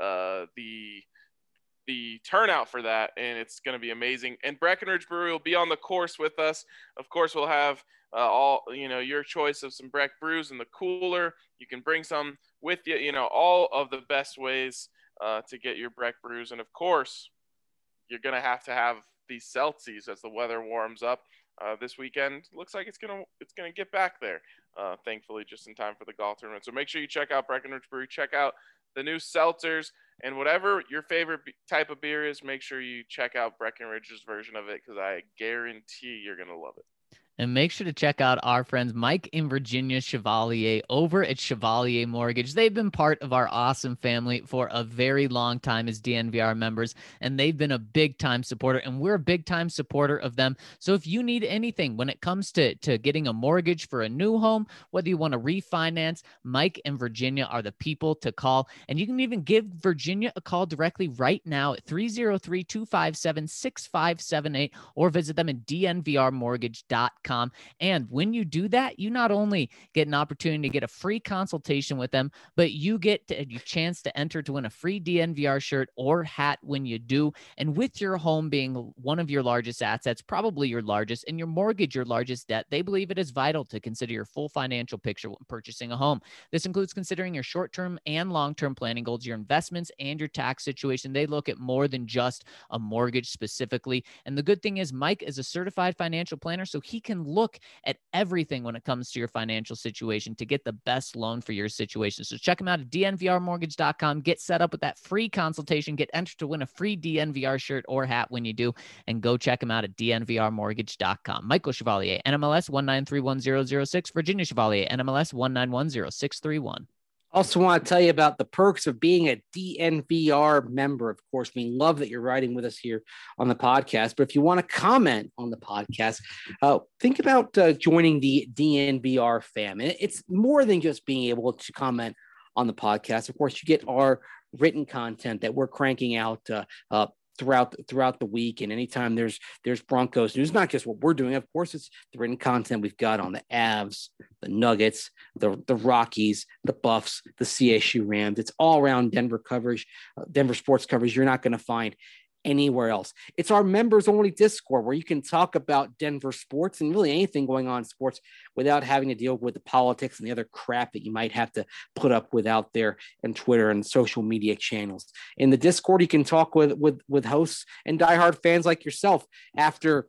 the turnout for that, and it's going to be amazing. And Breckenridge Brewery will be on the course with us. Of course, we'll have all, you know, your choice of some Breck brews in the cooler. You can bring some with you, you know, all of the best ways to get your Breck brews. And of course, you're going to have these Celsius as the weather warms up. This weekend looks like it's gonna get back there, thankfully, just in time for the golf tournament. So make sure you check out Breckenridge Brewery, check out the new seltzers, and whatever your favorite type of beer is, make sure you check out Breckenridge's version of it, because I guarantee you're gonna love it. And make sure to check out our friends Mike and Virginia Chevalier over at Chevalier Mortgage. They've been part of our awesome family for a very long time as DNVR members, and they've been a big-time supporter, and we're a big-time supporter of them. So if you need anything when it comes to getting a mortgage for a new home, whether you want to refinance, Mike and Virginia are the people to call. And you can even give Virginia a call directly right now at 303-257-6578 or visit them at dnvrmortgage.com. And when you do that, you not only get an opportunity to get a free consultation with them, but you get a chance to enter to win a free DNVR shirt or hat when you do. And with your home being one of your largest assets, probably your largest, and your mortgage your largest debt, they believe it is vital to consider your full financial picture when purchasing a home. This includes considering your short-term and long-term planning goals, your investments, and your tax situation. They look at more than just a mortgage specifically. And the good thing is Mike is a certified financial planner, so he can look at everything when it comes to your financial situation to get the best loan for your situation. So check them out at dnvrmortgage.com. Get set up with that free consultation. Get entered to win a free DNVR shirt or hat when you do. And go check them out at dnvrmortgage.com. Michael Chevalier, NMLS 1931006. Virginia Chevalier, NMLS 1910631. Also want to tell you about the perks of being a DNVR member. Of course, we love that you're riding with us here on the podcast. But if you want to comment on the podcast, think about joining the DNVR fam. And it's more than just being able to comment on the podcast. Of course, you get our written content that we're cranking out throughout the week, and anytime there's Broncos news, not just what we're doing, of course, it's the written content we've got on the Avs, the Nuggets, the Rockies, the Buffs, the CSU Rams. It's all around Denver coverage, Denver sports coverage you're not going to find anywhere else. It's our members only Discord where you can talk about Denver sports and really anything going on in sports without having to deal with the politics and the other crap that you might have to put up with out there in Twitter and social media channels. In the Discord, you can talk with hosts and diehard fans like yourself. After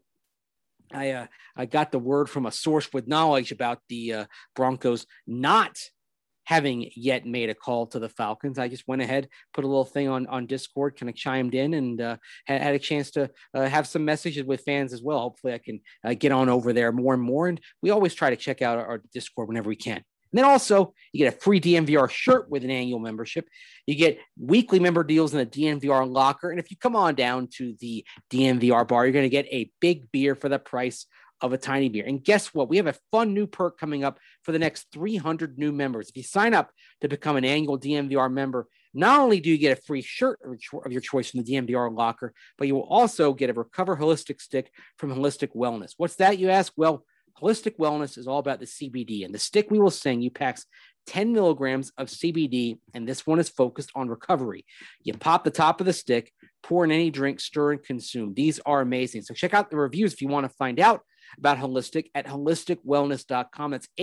I got the word from a source with knowledge about the Broncos not having yet made a call to the Falcons, I just went ahead, put a little thing on Discord, kind of chimed in, and had a chance to have some messages with fans as well. Hopefully I can get on over there more and more. And we always try to check out our Discord whenever we can. And then also you get a free DNVR shirt with an annual membership. You get weekly member deals in the DNVR locker. And if you come on down to the DNVR bar, you're going to get a big beer for the price of a tiny beer. And guess what? We have a fun new perk coming up for the next 300 new members. If you sign up to become an annual DNVR member, not only do you get a free shirt of your choice from the DNVR locker, but you will also get a Recover Holistic stick from Holistic Wellness. What's that, you ask? Well, Holistic Wellness is all about the CBD, and the stick we will send you packs 10 milligrams of CBD, and this one is focused on recovery. You pop the top of the stick, pour in any drink, stir and consume. These are amazing. So check out the reviews if you want to find out about Holistic at holisticwellness.com. That's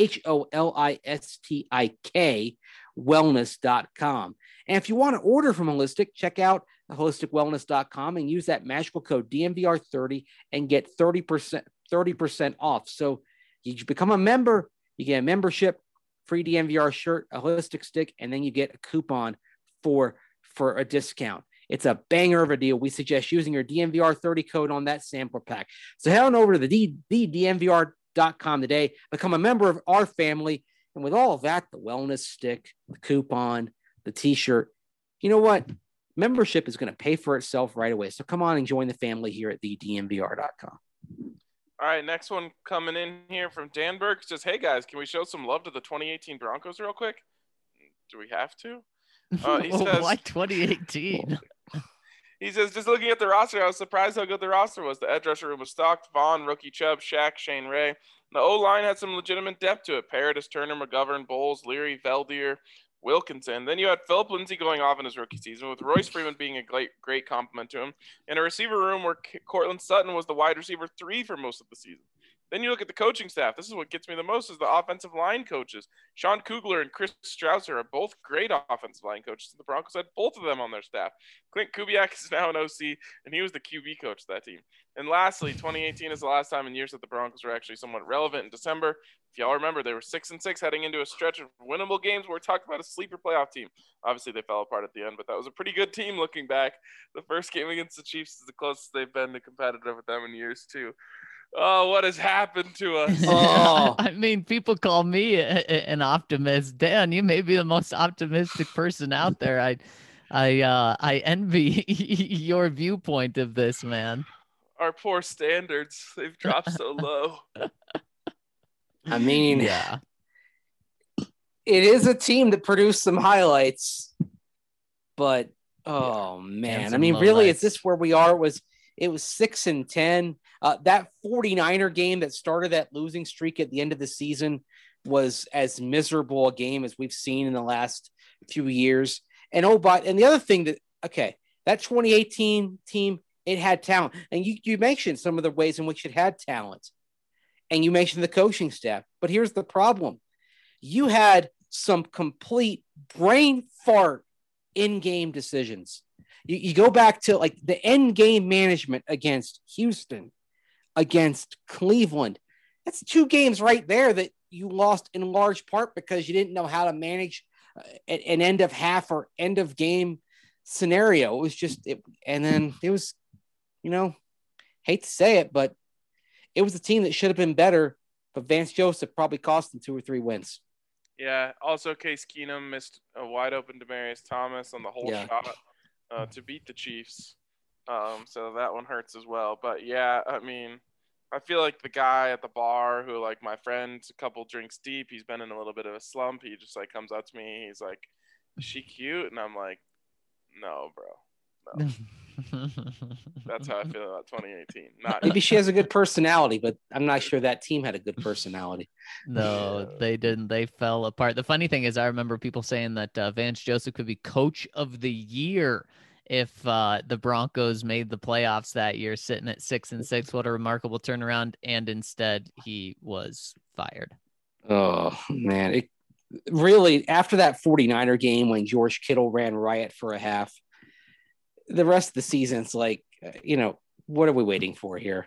HOLISTIK wellness.com. And if you want to order from Holistic, check out holisticwellness.com and use that magical code DNVR30 and get 30% off. So you become a member, you get a membership, free DNVR shirt, a Holistic stick, and then you get a coupon for a discount. It's a banger of a deal. We suggest using your DNVR30 code on that sampler pack. So head on over to the DNVR.com today, become a member of our family, And with all of that, the wellness stick, the coupon, the t-shirt, you know what? Membership is going to pay for itself right away. So come on and join the family here at thednvr.com. All right, next one coming in here from Danberg says, "Hey guys, can we show some love to the 2018 Broncos real quick? Do we have to?" He says, "Why 2018?" He says, "Just looking at the roster, I was surprised how good the roster was. The edge rusher room was stocked: Vaughn, Rookie Chubb, Shaq, Shane Ray. The O-line had some legitimate depth to it: Paradis, Turner, McGovern, Bowles, Leary, Veldier, Wilkinson. Then you had Philip Lindsay going off in his rookie season, with Royce Freeman being a great compliment to him, and a receiver room where Cortland Sutton was the wide receiver 3 for most of the season. Then you look at the coaching staff. This is what gets me the most, is the offensive line coaches. Sean Kugler and Chris Strausser are both great offensive line coaches. The Broncos had both of them on their staff. Clint Kubiak is now an OC, and he was the QB coach of that team. And lastly, 2018 is the last time in years that the Broncos were actually somewhat relevant in December. If y'all remember, they were 6-6 heading into a stretch of winnable games where we talked about a sleeper playoff team. Obviously, they fell apart at the end, but that was a pretty good team looking back. The first game against the Chiefs is the closest they've been to competitive with them in years, too. Oh, what has happened to us? Oh. I mean, people call me an optimist. Dan, you may be the most optimistic person out there. I envy your viewpoint of this, man. Our poor standards, they've dropped so low. I mean, yeah, it is a team that produced some highlights, but oh man, I mean, really, is this where we are? It was 6-10. That 49er game that started that losing streak at the end of the season was as miserable a game as we've seen in the last few years. And the other thing that 2018 team, it had talent. And you mentioned some of the ways in which it had talent. And you mentioned the coaching staff. But here's the problem. You had some complete brain fart in-game decisions. You go back to like the end game management against Houston, against Cleveland. That's 2 games right there that you lost in large part because you didn't know how to manage an end of half or end of game scenario. It was just, and then it was, hate to say it, but it was a team that should have been better, but Vance Joseph probably cost them 2 or 3 wins. Yeah. Also, Case Keenum missed a wide open Demaryius Thomas on the whole shot to beat the Chiefs. So that one hurts as well. But yeah, I mean, I feel like the guy at the bar who, like, my friend's a couple drinks deep, he's been in a little bit of a slump. He just like comes up to me. He's like, "Is she cute?" And I'm like, "No, bro. No." That's how I feel about 2018. Maybe she has a good personality, but I'm not sure that team had a good personality. No, they didn't. They fell apart. The funny thing is, I remember people saying that Vance Joseph could be coach of the year if the Broncos made the playoffs that year, sitting at 6-6. What a remarkable turnaround. And instead he was fired. Oh man. It really, after that 49er game, when George Kittle ran riot for a half, the rest of the season's like, what are we waiting for here?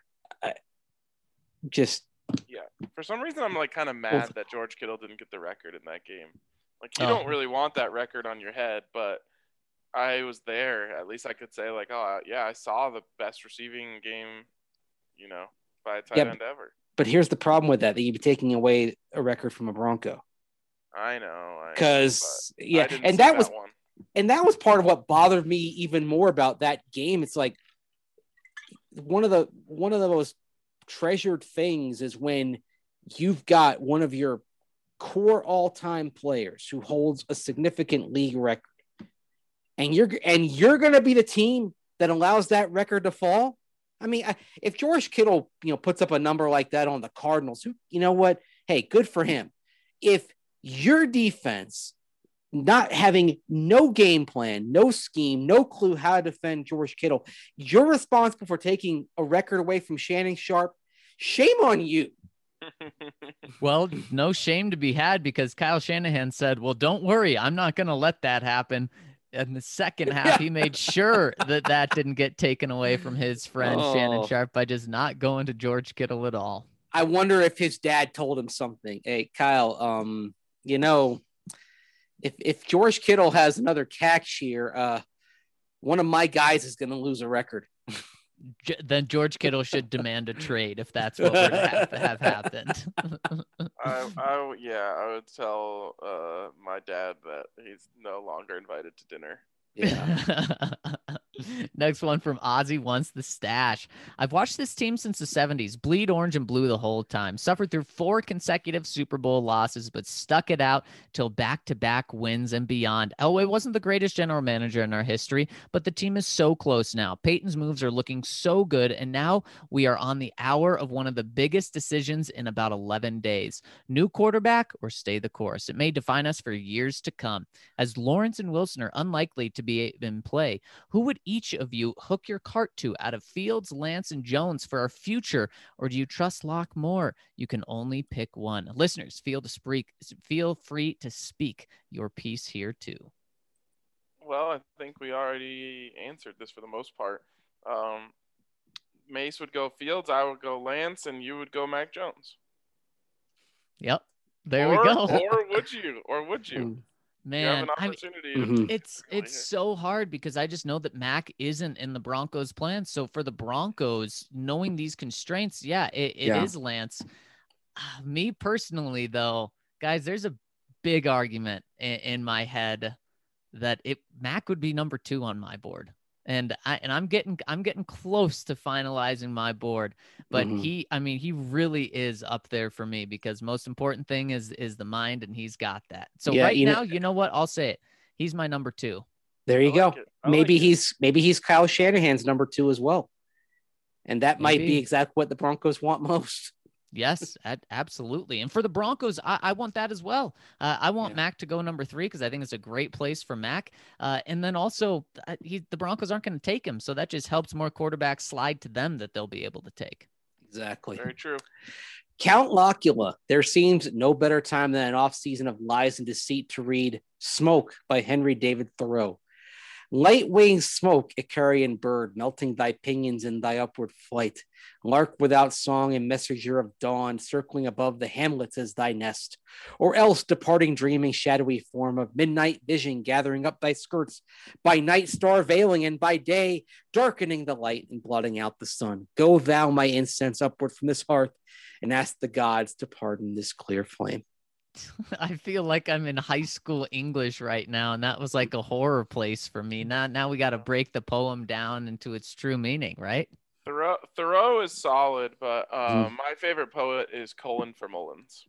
For some reason, I'm like kind of mad that George Kittle didn't get the record in that game. Like, you don't really want that record on your head, but I was there. At least I could say, like, oh, yeah, I saw the best receiving game, by a tight end ever. But here's the problem with that you'd be taking away a record from a Bronco. I know. Because, and that was part of what bothered me even more about that game. It's like one of the most treasured things is when you've got one of your core all-time players who holds a significant league record, and you're going to be the team that allows that record to fall. I mean, if George Kittle, puts up a number like that on the Cardinals, you know what? Hey, good for him. If your defense, not having no game plan, no scheme, no clue how to defend George Kittle, you're responsible for taking a record away from Shannon Sharpe. Shame on you. Well, no shame to be had, because Kyle Shanahan said, well, don't worry, I'm not going to let that happen. In the second half, he made sure that didn't get taken away from his friend Shannon Sharpe by just not going to George Kittle at all. I wonder if his dad told him something. Hey, Kyle, if George Kittle has another catch here, one of my guys is going to lose a record. then George Kittle should demand a trade if that's what were to have happened. I would tell my dad that he's no longer invited to dinner. Yeah. Next one from Ozzy wants the stash. I've watched this team since the 70s, bleed orange and blue the whole time, suffered through 4 consecutive Super Bowl losses, but stuck it out till back-to-back wins and beyond. Elway wasn't the greatest general manager in our history, but the team is so close now. Peyton's moves are looking so good, and now we are on the hour of one of the biggest decisions in about 11 days. New quarterback or stay the course. It may define us for years to come. As Lawrence and Wilson are unlikely to be in play, who would each of you hook your cart to out of Fields, Lance, and Jones for our future, or do you trust Locke more? You can only pick one. Listeners, feel free to speak your piece here too. Well, I think we already answered this for the most part. Mace would go Fields, I would go Lance, and you would go Mac Jones. Yep, there we go. Or would you? Man, you have an opportunity. It's so hard because I just know that Mac isn't in the Broncos' plan. So for the Broncos, knowing these constraints, it is Lance. Me personally, though, guys, there's a big argument in my head that Mac would be number 2 on my board. And I'm getting close to finalizing my board, but he really is up there for me because most important thing is the mind, and he's got that. So now, you know what? I'll say it. He's my number 2. There you go. Maybe he's Kyle Shanahan's number 2 as well. And that might be exactly what the Broncos want most. Yes, absolutely. And for the Broncos, I want that as well. I want Mac to go number 3 because I think it's a great place for Mac. And then also, the Broncos aren't going to take him, so that just helps more quarterbacks slide to them that they'll be able to take. Exactly. Very true. Count Locula. There seems no better time than an off-season of lies and deceit to read Smoke by Henry David Thoreau. Light-winged smoke, Icarian bird, melting thy pinions in thy upward flight. Lark without song and messenger of dawn, circling above the hamlets as thy nest. Or else departing dreaming shadowy form of midnight vision gathering up thy skirts, by night star veiling and by day darkening the light and blotting out the sun. Go thou, my incense, upward from this hearth, and ask the gods to pardon this clear flame. I feel like I'm in high school English right now, and that was like a horror place for me. Now we got to break the poem down into its true meaning, right? Thoreau is solid, but my favorite poet is Colin for Mullins.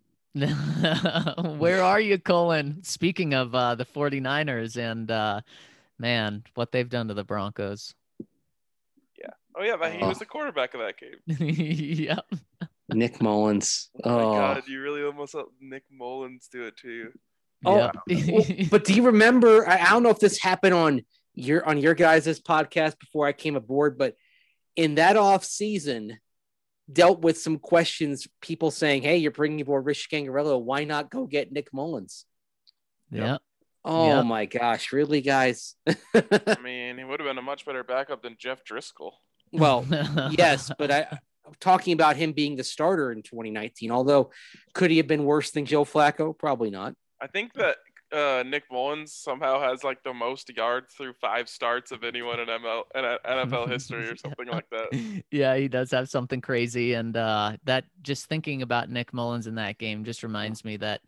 Where are you, Colin? Speaking of the 49ers and, man, what they've done to the Broncos. Yeah. Oh, yeah, he was the quarterback of that game. Yep. Nick Mullins. Oh my God, you really almost let Nick Mullins do it to you. Oh, yeah. But do you remember? I don't know if this happened on your guys' podcast before I came aboard, but in that off season, dealt with some questions. People saying, "Hey, you're bringing aboard Rich Scangarello. Why not go get Nick Mullins?" Yeah. Oh my gosh, really, guys? I mean, he would have been a much better backup than Jeff Driscoll. Well, yes, but I'm talking about him being the starter in 2019. Although, could he have been worse than Joe Flacco? Probably not. I think that Nick Mullins somehow has like the most yards through 5 starts of anyone in NFL history or something like that. Yeah, he does have something crazy. And that just thinking about Nick Mullins in that game just reminds me that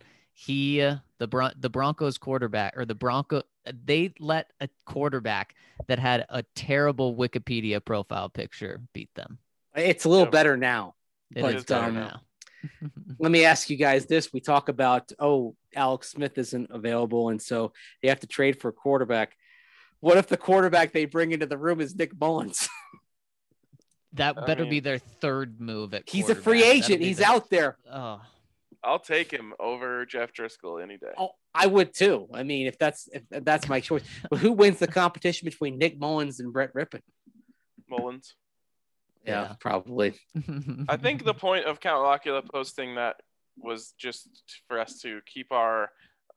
the Broncos quarterback they let a quarterback that had a terrible Wikipedia profile picture beat them. It's a little better now. It is better now. Let me ask you guys this. We talk about, Alex Smith isn't available, and so they have to trade for a quarterback. What if the quarterback they bring into the room is Nick Mullins? That better be their third move at He's a free agent. He's out there. Oh, I'll take him over Jeff Driscoll any day. Oh, I would too. I mean, if that's my choice. But who wins the competition between Nick Mullins and Brett Rippon? Mullins. Yeah, probably. I think the point of Count Locula posting that was just for us to keep our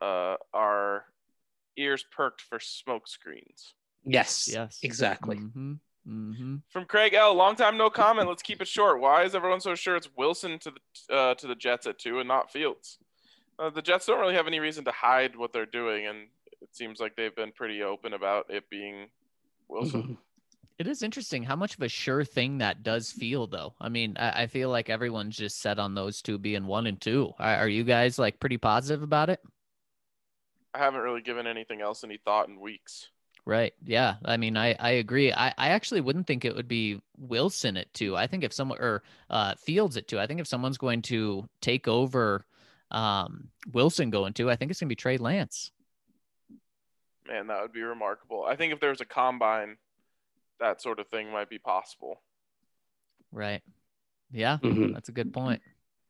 ears perked for smoke screens. Yes, exactly. Mm-hmm. Mm-hmm. From Craig L, long time no comment. Let's keep it short. Why is everyone so sure it's Wilson to the Jets at 2 and not Fields? The Jets don't really have any reason to hide what they're doing, and it seems like they've been pretty open about it being Wilson. It is interesting how much of a sure thing that does feel, though. I mean, I feel like everyone's just set on those two being 1 and 2. Are you guys like pretty positive about it? I haven't really given anything else any thought in weeks. Right. Yeah. I mean, I agree. I actually wouldn't think it would be Wilson at 2. I think if someone or Fields at 2, I think if someone's going to take over Wilson going 2, I think it's going to be Trey Lance. Man, that would be remarkable. I think if there was a combine, that sort of thing might be possible. Right. Yeah, Mhm. that's a good point.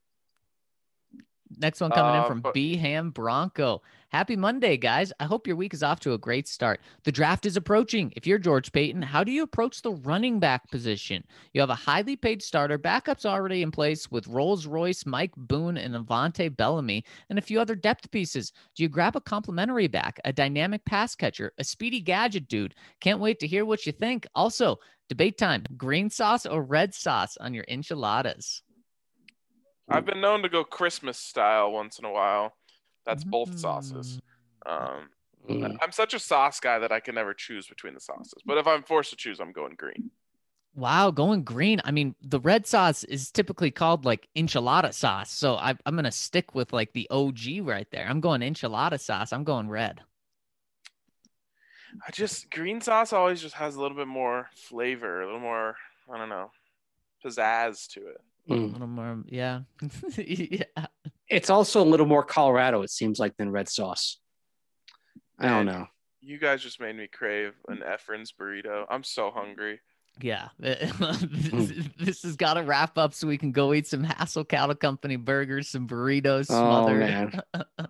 Next one coming in from B-Ham Bronco. Happy Monday, guys. I hope your week is off to a great start. The draft is approaching. If you're George Payton, how do you approach the running back position? You have a highly paid starter, backups already in place with Rolls-Royce, Mike Boone, and Avante Bellamy, and a few other depth pieces. Do you grab a complimentary back, a dynamic pass catcher, a speedy gadget dude? Can't wait to hear what you think. Also, debate time, green sauce or red sauce on your enchiladas? I've been known to go Christmas style once in a while. That's both sauces. I'm such a sauce guy that I can never choose between the sauces. But if I'm forced to choose, I'm going green. Wow, going green. I mean, the red sauce is typically called like enchilada sauce. So I'm going to stick with like the OG right there. I'm going enchilada sauce. I'm going red. Green sauce always just has a little bit more flavor, a little more, I don't know, pizzazz to it. A little more, yeah. Yeah. It's also a little more Colorado, it seems like, than red sauce. I don't know. You guys just made me crave an Efren's burrito. I'm so hungry. Yeah. This has got to wrap up so we can go eat some Hassel Cattle Company burgers, some burritos smothered. Oh, man.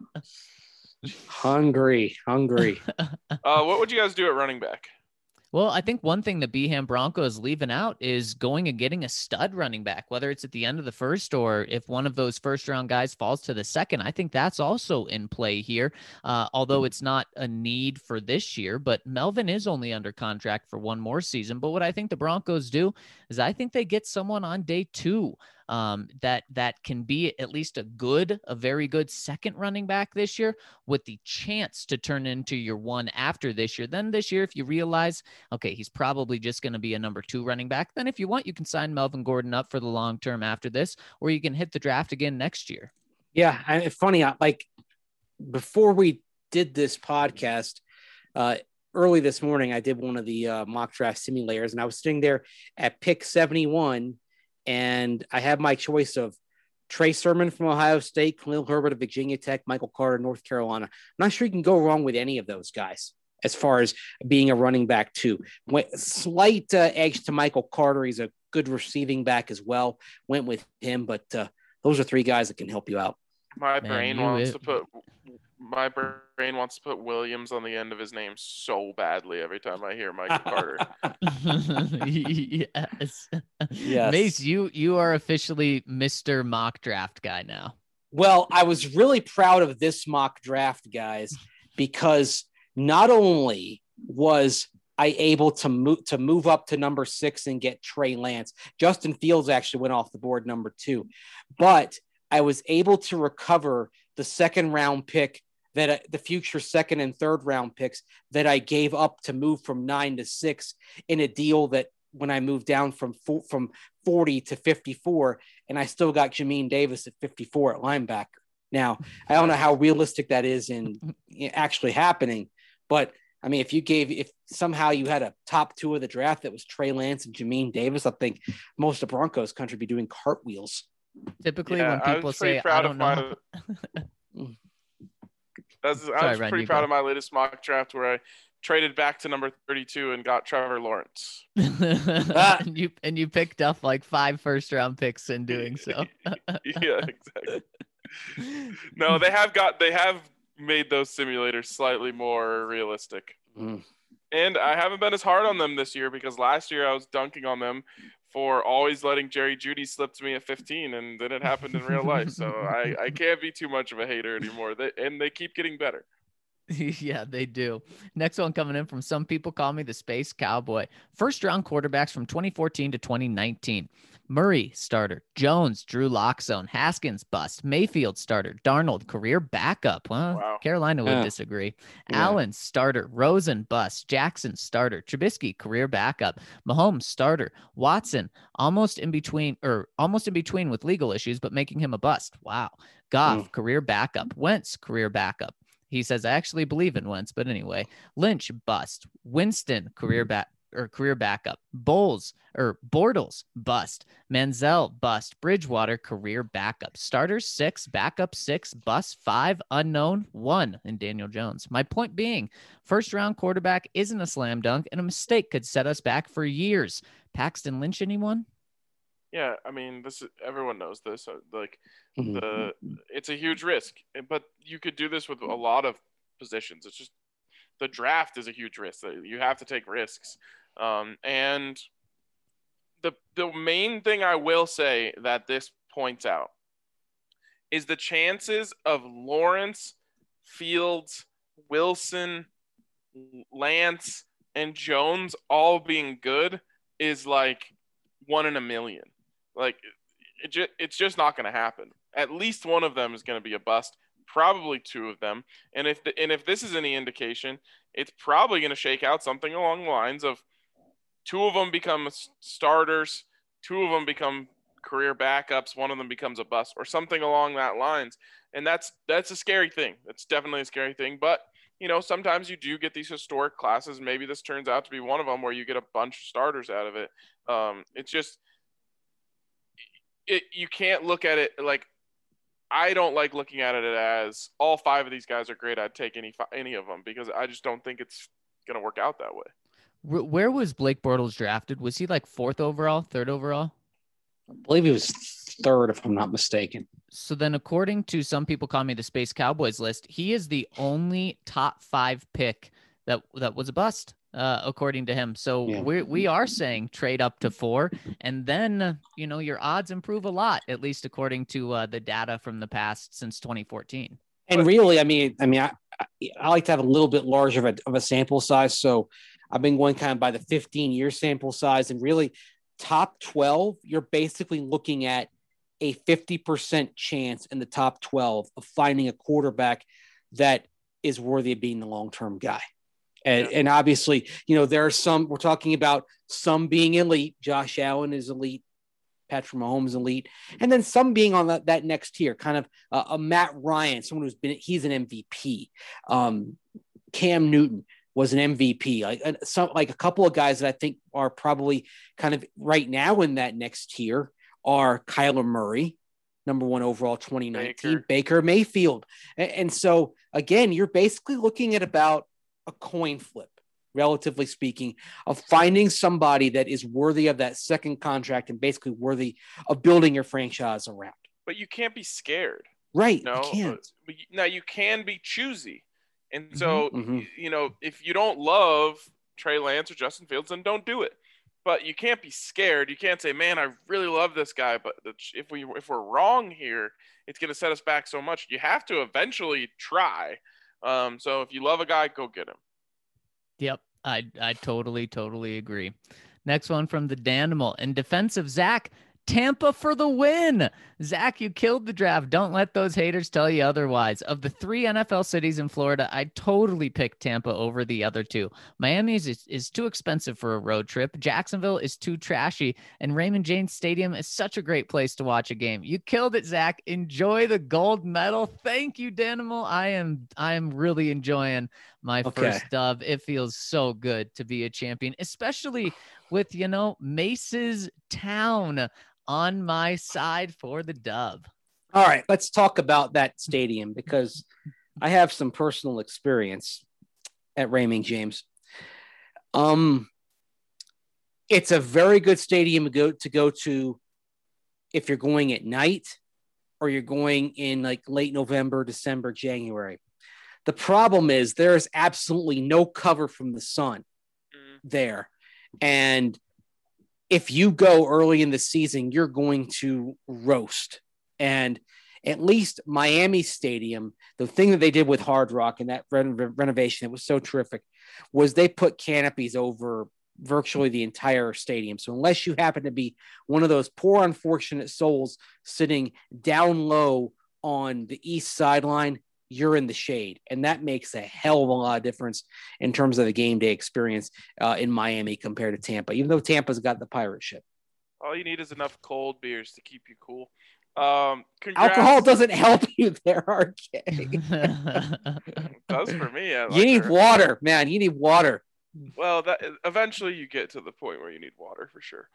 Hungry. What would you guys do at running back? Well, I think one thing the Beham Broncos is leaving out is going and getting a stud running back, whether it's at the end of the first or if one of those first round guys falls to the second. I think that's also in play here, although it's not a need for this year. But Melvin is only under contract for one more season. But what I think the Broncos do is I think they get someone on day 2 that can be at least a very good second running back this year with the chance to turn into your one after this year. Then this year, if you realize, okay, he's probably just going to be a number 2 running back, then if you want, you can sign Melvin Gordon up for the long term after this, or you can hit the draft again next year. Yeah. And it's funny, like before we did this podcast, early this morning, I did one of the mock draft simulators, and I was sitting there at pick 71, and I have my choice of Trey Sermon from Ohio State, Khalil Herbert of Virginia Tech, Michael Carter, North Carolina. I'm not sure you can go wrong with any of those guys as far as being a running back too. Slight edge to Michael Carter. He's a good receiving back as well. Went with him, but those are 3 guys that can help you out. My brain wants to put Williams on the end of his name so badly every time I hear Michael Carter. Yes. Mace, you are officially Mr. Mock Draft guy now. Well, I was really proud of this mock draft, guys, because not only was I able to move up to number 6 and get Trey Lance, Justin Fields actually went off the board number 2, but I was able to recover the second round pick that the future second and third round picks that I gave up to move from 9 to 6 in a deal that when I moved down from 40 to 54, and I still got Jamin Davis at 54 at linebacker. Now, I don't know how realistic that is in actually happening, but I mean, if somehow you had a top 2 of the draft that was Trey Lance and Jamin Davis, I think most of Broncos country be doing cartwheels. Typically, when people say, I don't know. I was pretty proud of my latest mock draft where I traded back to number 32 and got Trevor Lawrence. and you picked up like 5 first-round picks in doing so. Yeah, exactly. No, they have made those simulators slightly more realistic. And I haven't been as hard on them this year because last year I was dunking on them for always letting Jerry Jeudy slip to me at 15, and then it happened in real life. So I can't be too much of a hater anymore. They keep getting better. Yeah, they do. Next one coming in from some people call me the Space Cowboy. First round quarterbacks from 2014 to 2019. Murray, starter. Jones, Drew Lock zone. Haskins, bust. Mayfield, starter. Darnold, career backup. Well, Wow. Carolina would disagree. Yeah. Allen, starter. Rosen, bust. Jackson, starter. Trubisky, career backup. Mahomes, starter. Watson, almost in between with legal issues, but making him a bust. Wow. Goff, career backup. Wentz, career backup. He says, I actually believe in Wentz, but anyway. Lynch, bust. Winston, career backup. Bortles, bust. Manziel, bust. Bridgewater, career backup. Starters 6, backup 6, bust 5, unknown 1 in Daniel Jones. My point being, first round quarterback isn't a slam dunk, and a mistake could set us back for years. Paxton Lynch, anyone? Yeah, I mean, everyone knows this. It's a huge risk, but you could do this with a lot of positions. It's just the draft is a huge risk. You have to take risks, and the main thing I will say that this points out is the chances of Lawrence, Fields, Wilson, Lance, and Jones all being good is like 1 in a million. Like it's just not going to happen. At least one of them is going to be a bust, probably 2 of them. And if this is any indication, it's probably going to shake out something along the lines of 2 of them become starters, 2 of them become career backups, 1 of them becomes a bust, or something along that lines. And that's a scary thing. It's definitely a scary thing. But sometimes you do get these historic classes. Maybe this turns out to be one of them where you get a bunch of starters out of it. It's just you can't look at it like, I don't like looking at it as all 5 of these guys are great. I'd take any of them, because I just don't think it's going to work out that way. Where was Blake Bortles drafted? Was he like 4th overall, 3rd overall? I believe he was 3rd, if I'm not mistaken. So then, according to some people call me the Space Cowboys list, he is the only top 5 pick that was a bust, according to him. So Yeah. we are saying trade up to 4, and then your odds improve a lot, at least according to the data from the past since 2014. And really, I mean, I like to have a little bit larger of a sample size. So I've been going kind of by the 15-year sample size, and really top 12, you're basically looking at a 50% chance in the top 12 of finding a quarterback that is worthy of being the long-term guy. And obviously, there are some, we're talking about some being elite. Josh Allen is elite. Patrick Mahomes elite. And then some being on that next tier, kind of a Matt Ryan, someone he's an MVP. Cam Newton was an MVP. Like a couple of guys that I think are probably kind of right now in that next tier are Kyler Murray, number 1 overall 2019, Baker Mayfield. And so again, you're basically looking at about a coin flip, relatively speaking, of finding somebody that is worthy of that second contract and basically worthy of building your franchise around. But you can't be scared. Right. No, you can't. Now you can be choosy. And so, if you don't love Trey Lance or Justin Fields, then don't do it. But you can't be scared. You can't say, man, I really love this guy, but if we're wrong here, it's going to set us back so much. You have to eventually try. So if you love a guy, go get him. Yep, I totally agree. Next one from the Danimal. In defense of Zach, Tampa for the win. Zach, you killed the draft. Don't let those haters tell you otherwise. Of the 3 NFL cities in Florida, I totally picked Tampa over the other 2. Miami is too expensive for a road trip. Jacksonville is too trashy. And Raymond James Stadium is such a great place to watch a game. You killed it, Zach. Enjoy the gold medal. Thank you, Danimal. I am really enjoying my first dub. It feels so good to be a champion, especially with, Mace's Town on my side for the dub. All right, let's talk about that stadium, because I have some personal experience at Raymond James. It's a very good stadium to go to if you're going at night or you're going in like late November, December, January. The problem is there is absolutely no cover from the sun there. And if you go early in the season, you're going to roast. And At least Miami Stadium, the thing that they did with Hard Rock and that renovation that was so terrific was they put canopies over virtually the entire stadium. So unless you happen to be one of those poor, unfortunate souls sitting down low on the east sideline, you're in the shade. And that makes a hell of a lot of difference in terms of the game day experience in Miami compared to Tampa, even though Tampa's got the pirate ship. All you need is enough cold beers to keep you cool. Alcohol doesn't help you there, RK. It does for me. You need water, man. You need water. Well, that eventually you get to the point where you need water for sure.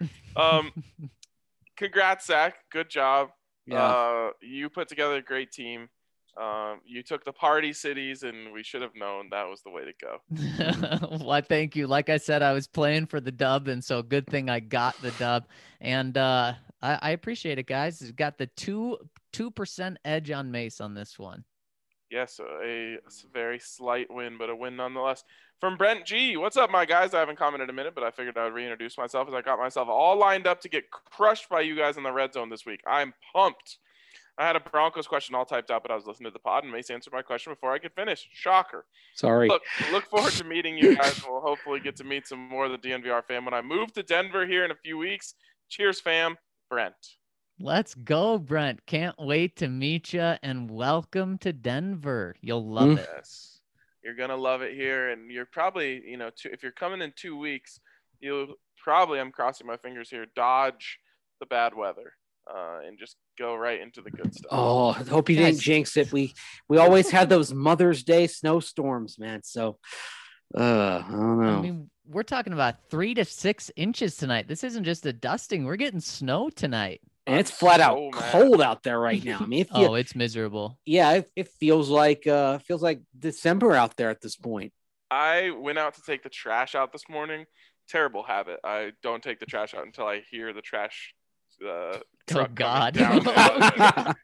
Congrats, Zach. Good job. Yeah. You put together a great team. You took the party cities, and we should have known that was the way to go. Well, thank you. Like I said, I was playing for the dub, and so good thing I got the dub. And I appreciate it, guys. Got the 2% edge on Mace on this one. Yes, a very slight win, but a win nonetheless. From Brent G. What's up, my guys? I haven't commented in a minute, but I figured I would reintroduce myself as I got myself all lined up to get crushed by you guys in the red zone this week. I'm pumped. I had a Broncos question all typed out, but I was listening to the pod, and Mace answered my question before I could finish. Shocker. Sorry. Look forward to meeting you guys. We'll hopefully get to meet some more of the DNVR fam when I move to Denver here in a few weeks. Cheers, fam. Brent. Let's go, Brent. Can't wait to meet you, and welcome to Denver. You'll love it. Yes. You're going to love it here, and you're probably, if you're coming in 2 weeks, you'll probably, I'm crossing my fingers here, dodge the bad weather and just go right into the good stuff. Oh, I hope you didn't jinx it. We always had those Mother's Day snowstorms, man. So, I don't know. I mean, we're talking about 3 to 6 inches tonight. This isn't just a dusting. We're getting snow tonight. And it's flat out cold out there right now. I mean, it's miserable. Yeah, it feels like December out there at this point. I went out to take the trash out this morning. Terrible habit. I don't take the trash out until I hear the trash truck God. down.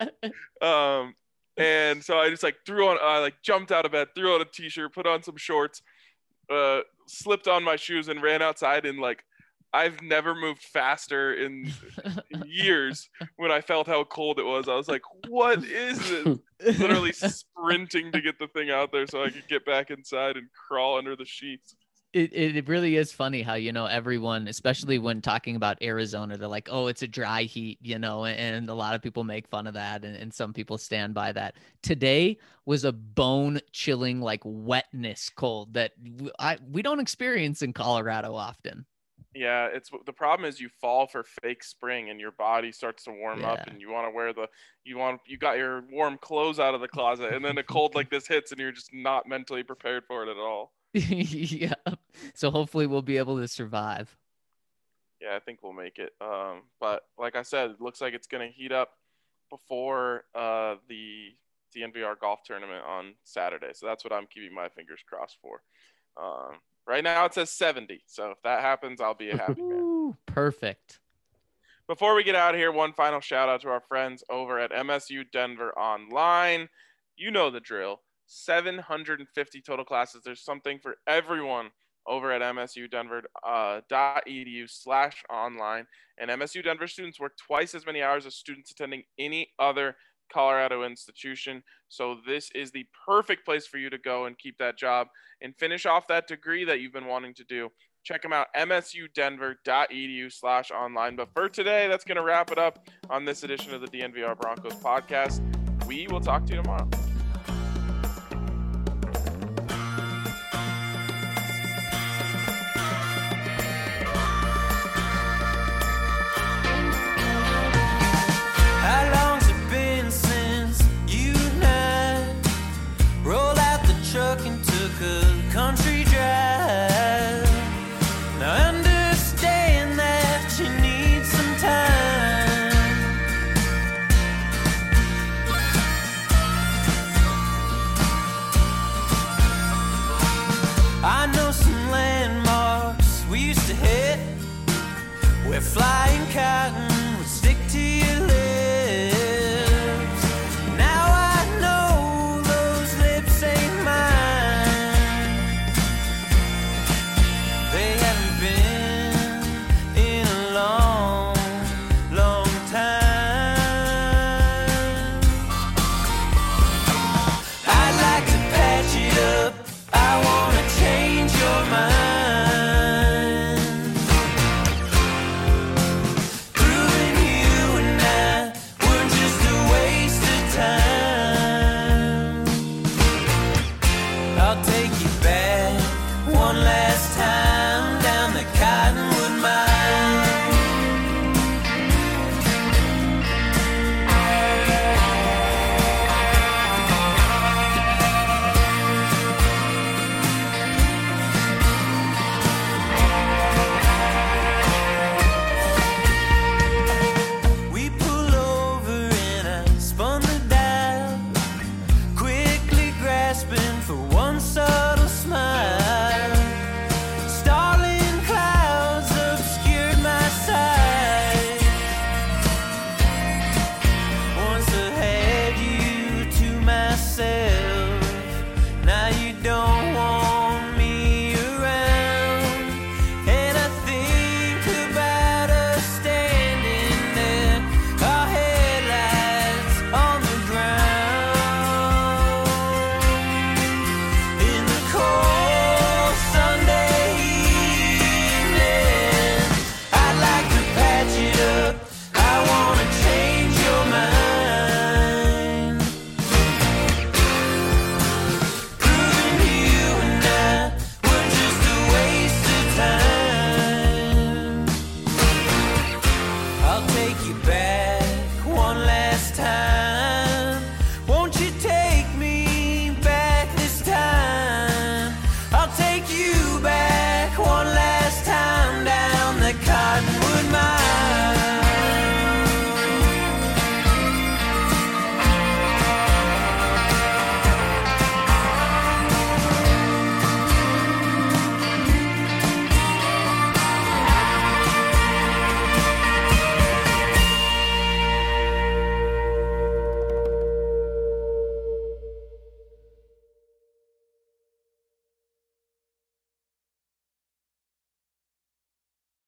And so I just jumped out of bed, threw on a t-shirt, put on some shorts, slipped on my shoes, and ran outside. And I've never moved faster in years when I felt how cold it was. I was like, what is this? Literally sprinting to get the thing out there so I could get back inside and crawl under the sheets. It really is funny how, everyone, especially when talking about Arizona, they're like, oh, it's a dry heat, and a lot of people make fun of that. And some people stand by that. Today was a bone chilling, wetness cold that we don't experience in Colorado often. Yeah, the problem is you fall for fake spring and your body starts to warm up, and you want to wear you got your warm clothes out of the closet, and then a cold like this hits and you're just not mentally prepared for it at all. Yeah. So hopefully we'll be able to survive. Yeah, I think we'll make it. But like I said, it looks like it's going to heat up before the DNVR golf tournament on Saturday. So that's what I'm keeping my fingers crossed for. Right now it says 70. So if that happens, I'll be a happy man. Perfect. Before we get out of here, one final shout out to our friends over at MSU Denver Online. You know the drill. 750 total classes. There's something for everyone over at msudenver.edu/online. And MSU Denver students work twice as many hours as students attending any other Colorado institution. So this is the perfect place for you to go and keep that job and finish off that degree that you've been wanting to do. Check them out, msudenver.edu/online. But for today, that's going to wrap it up on this edition of the DNVR Broncos podcast. We will talk to you tomorrow. How long's it been since you and I rolled out the truck and took a country drive? Now I understand that you need some time. I know some landmarks we used to hit where flying cotton would stick to your lips. Now I know those lips ain't mine. They haven't been in a long, long time. you back.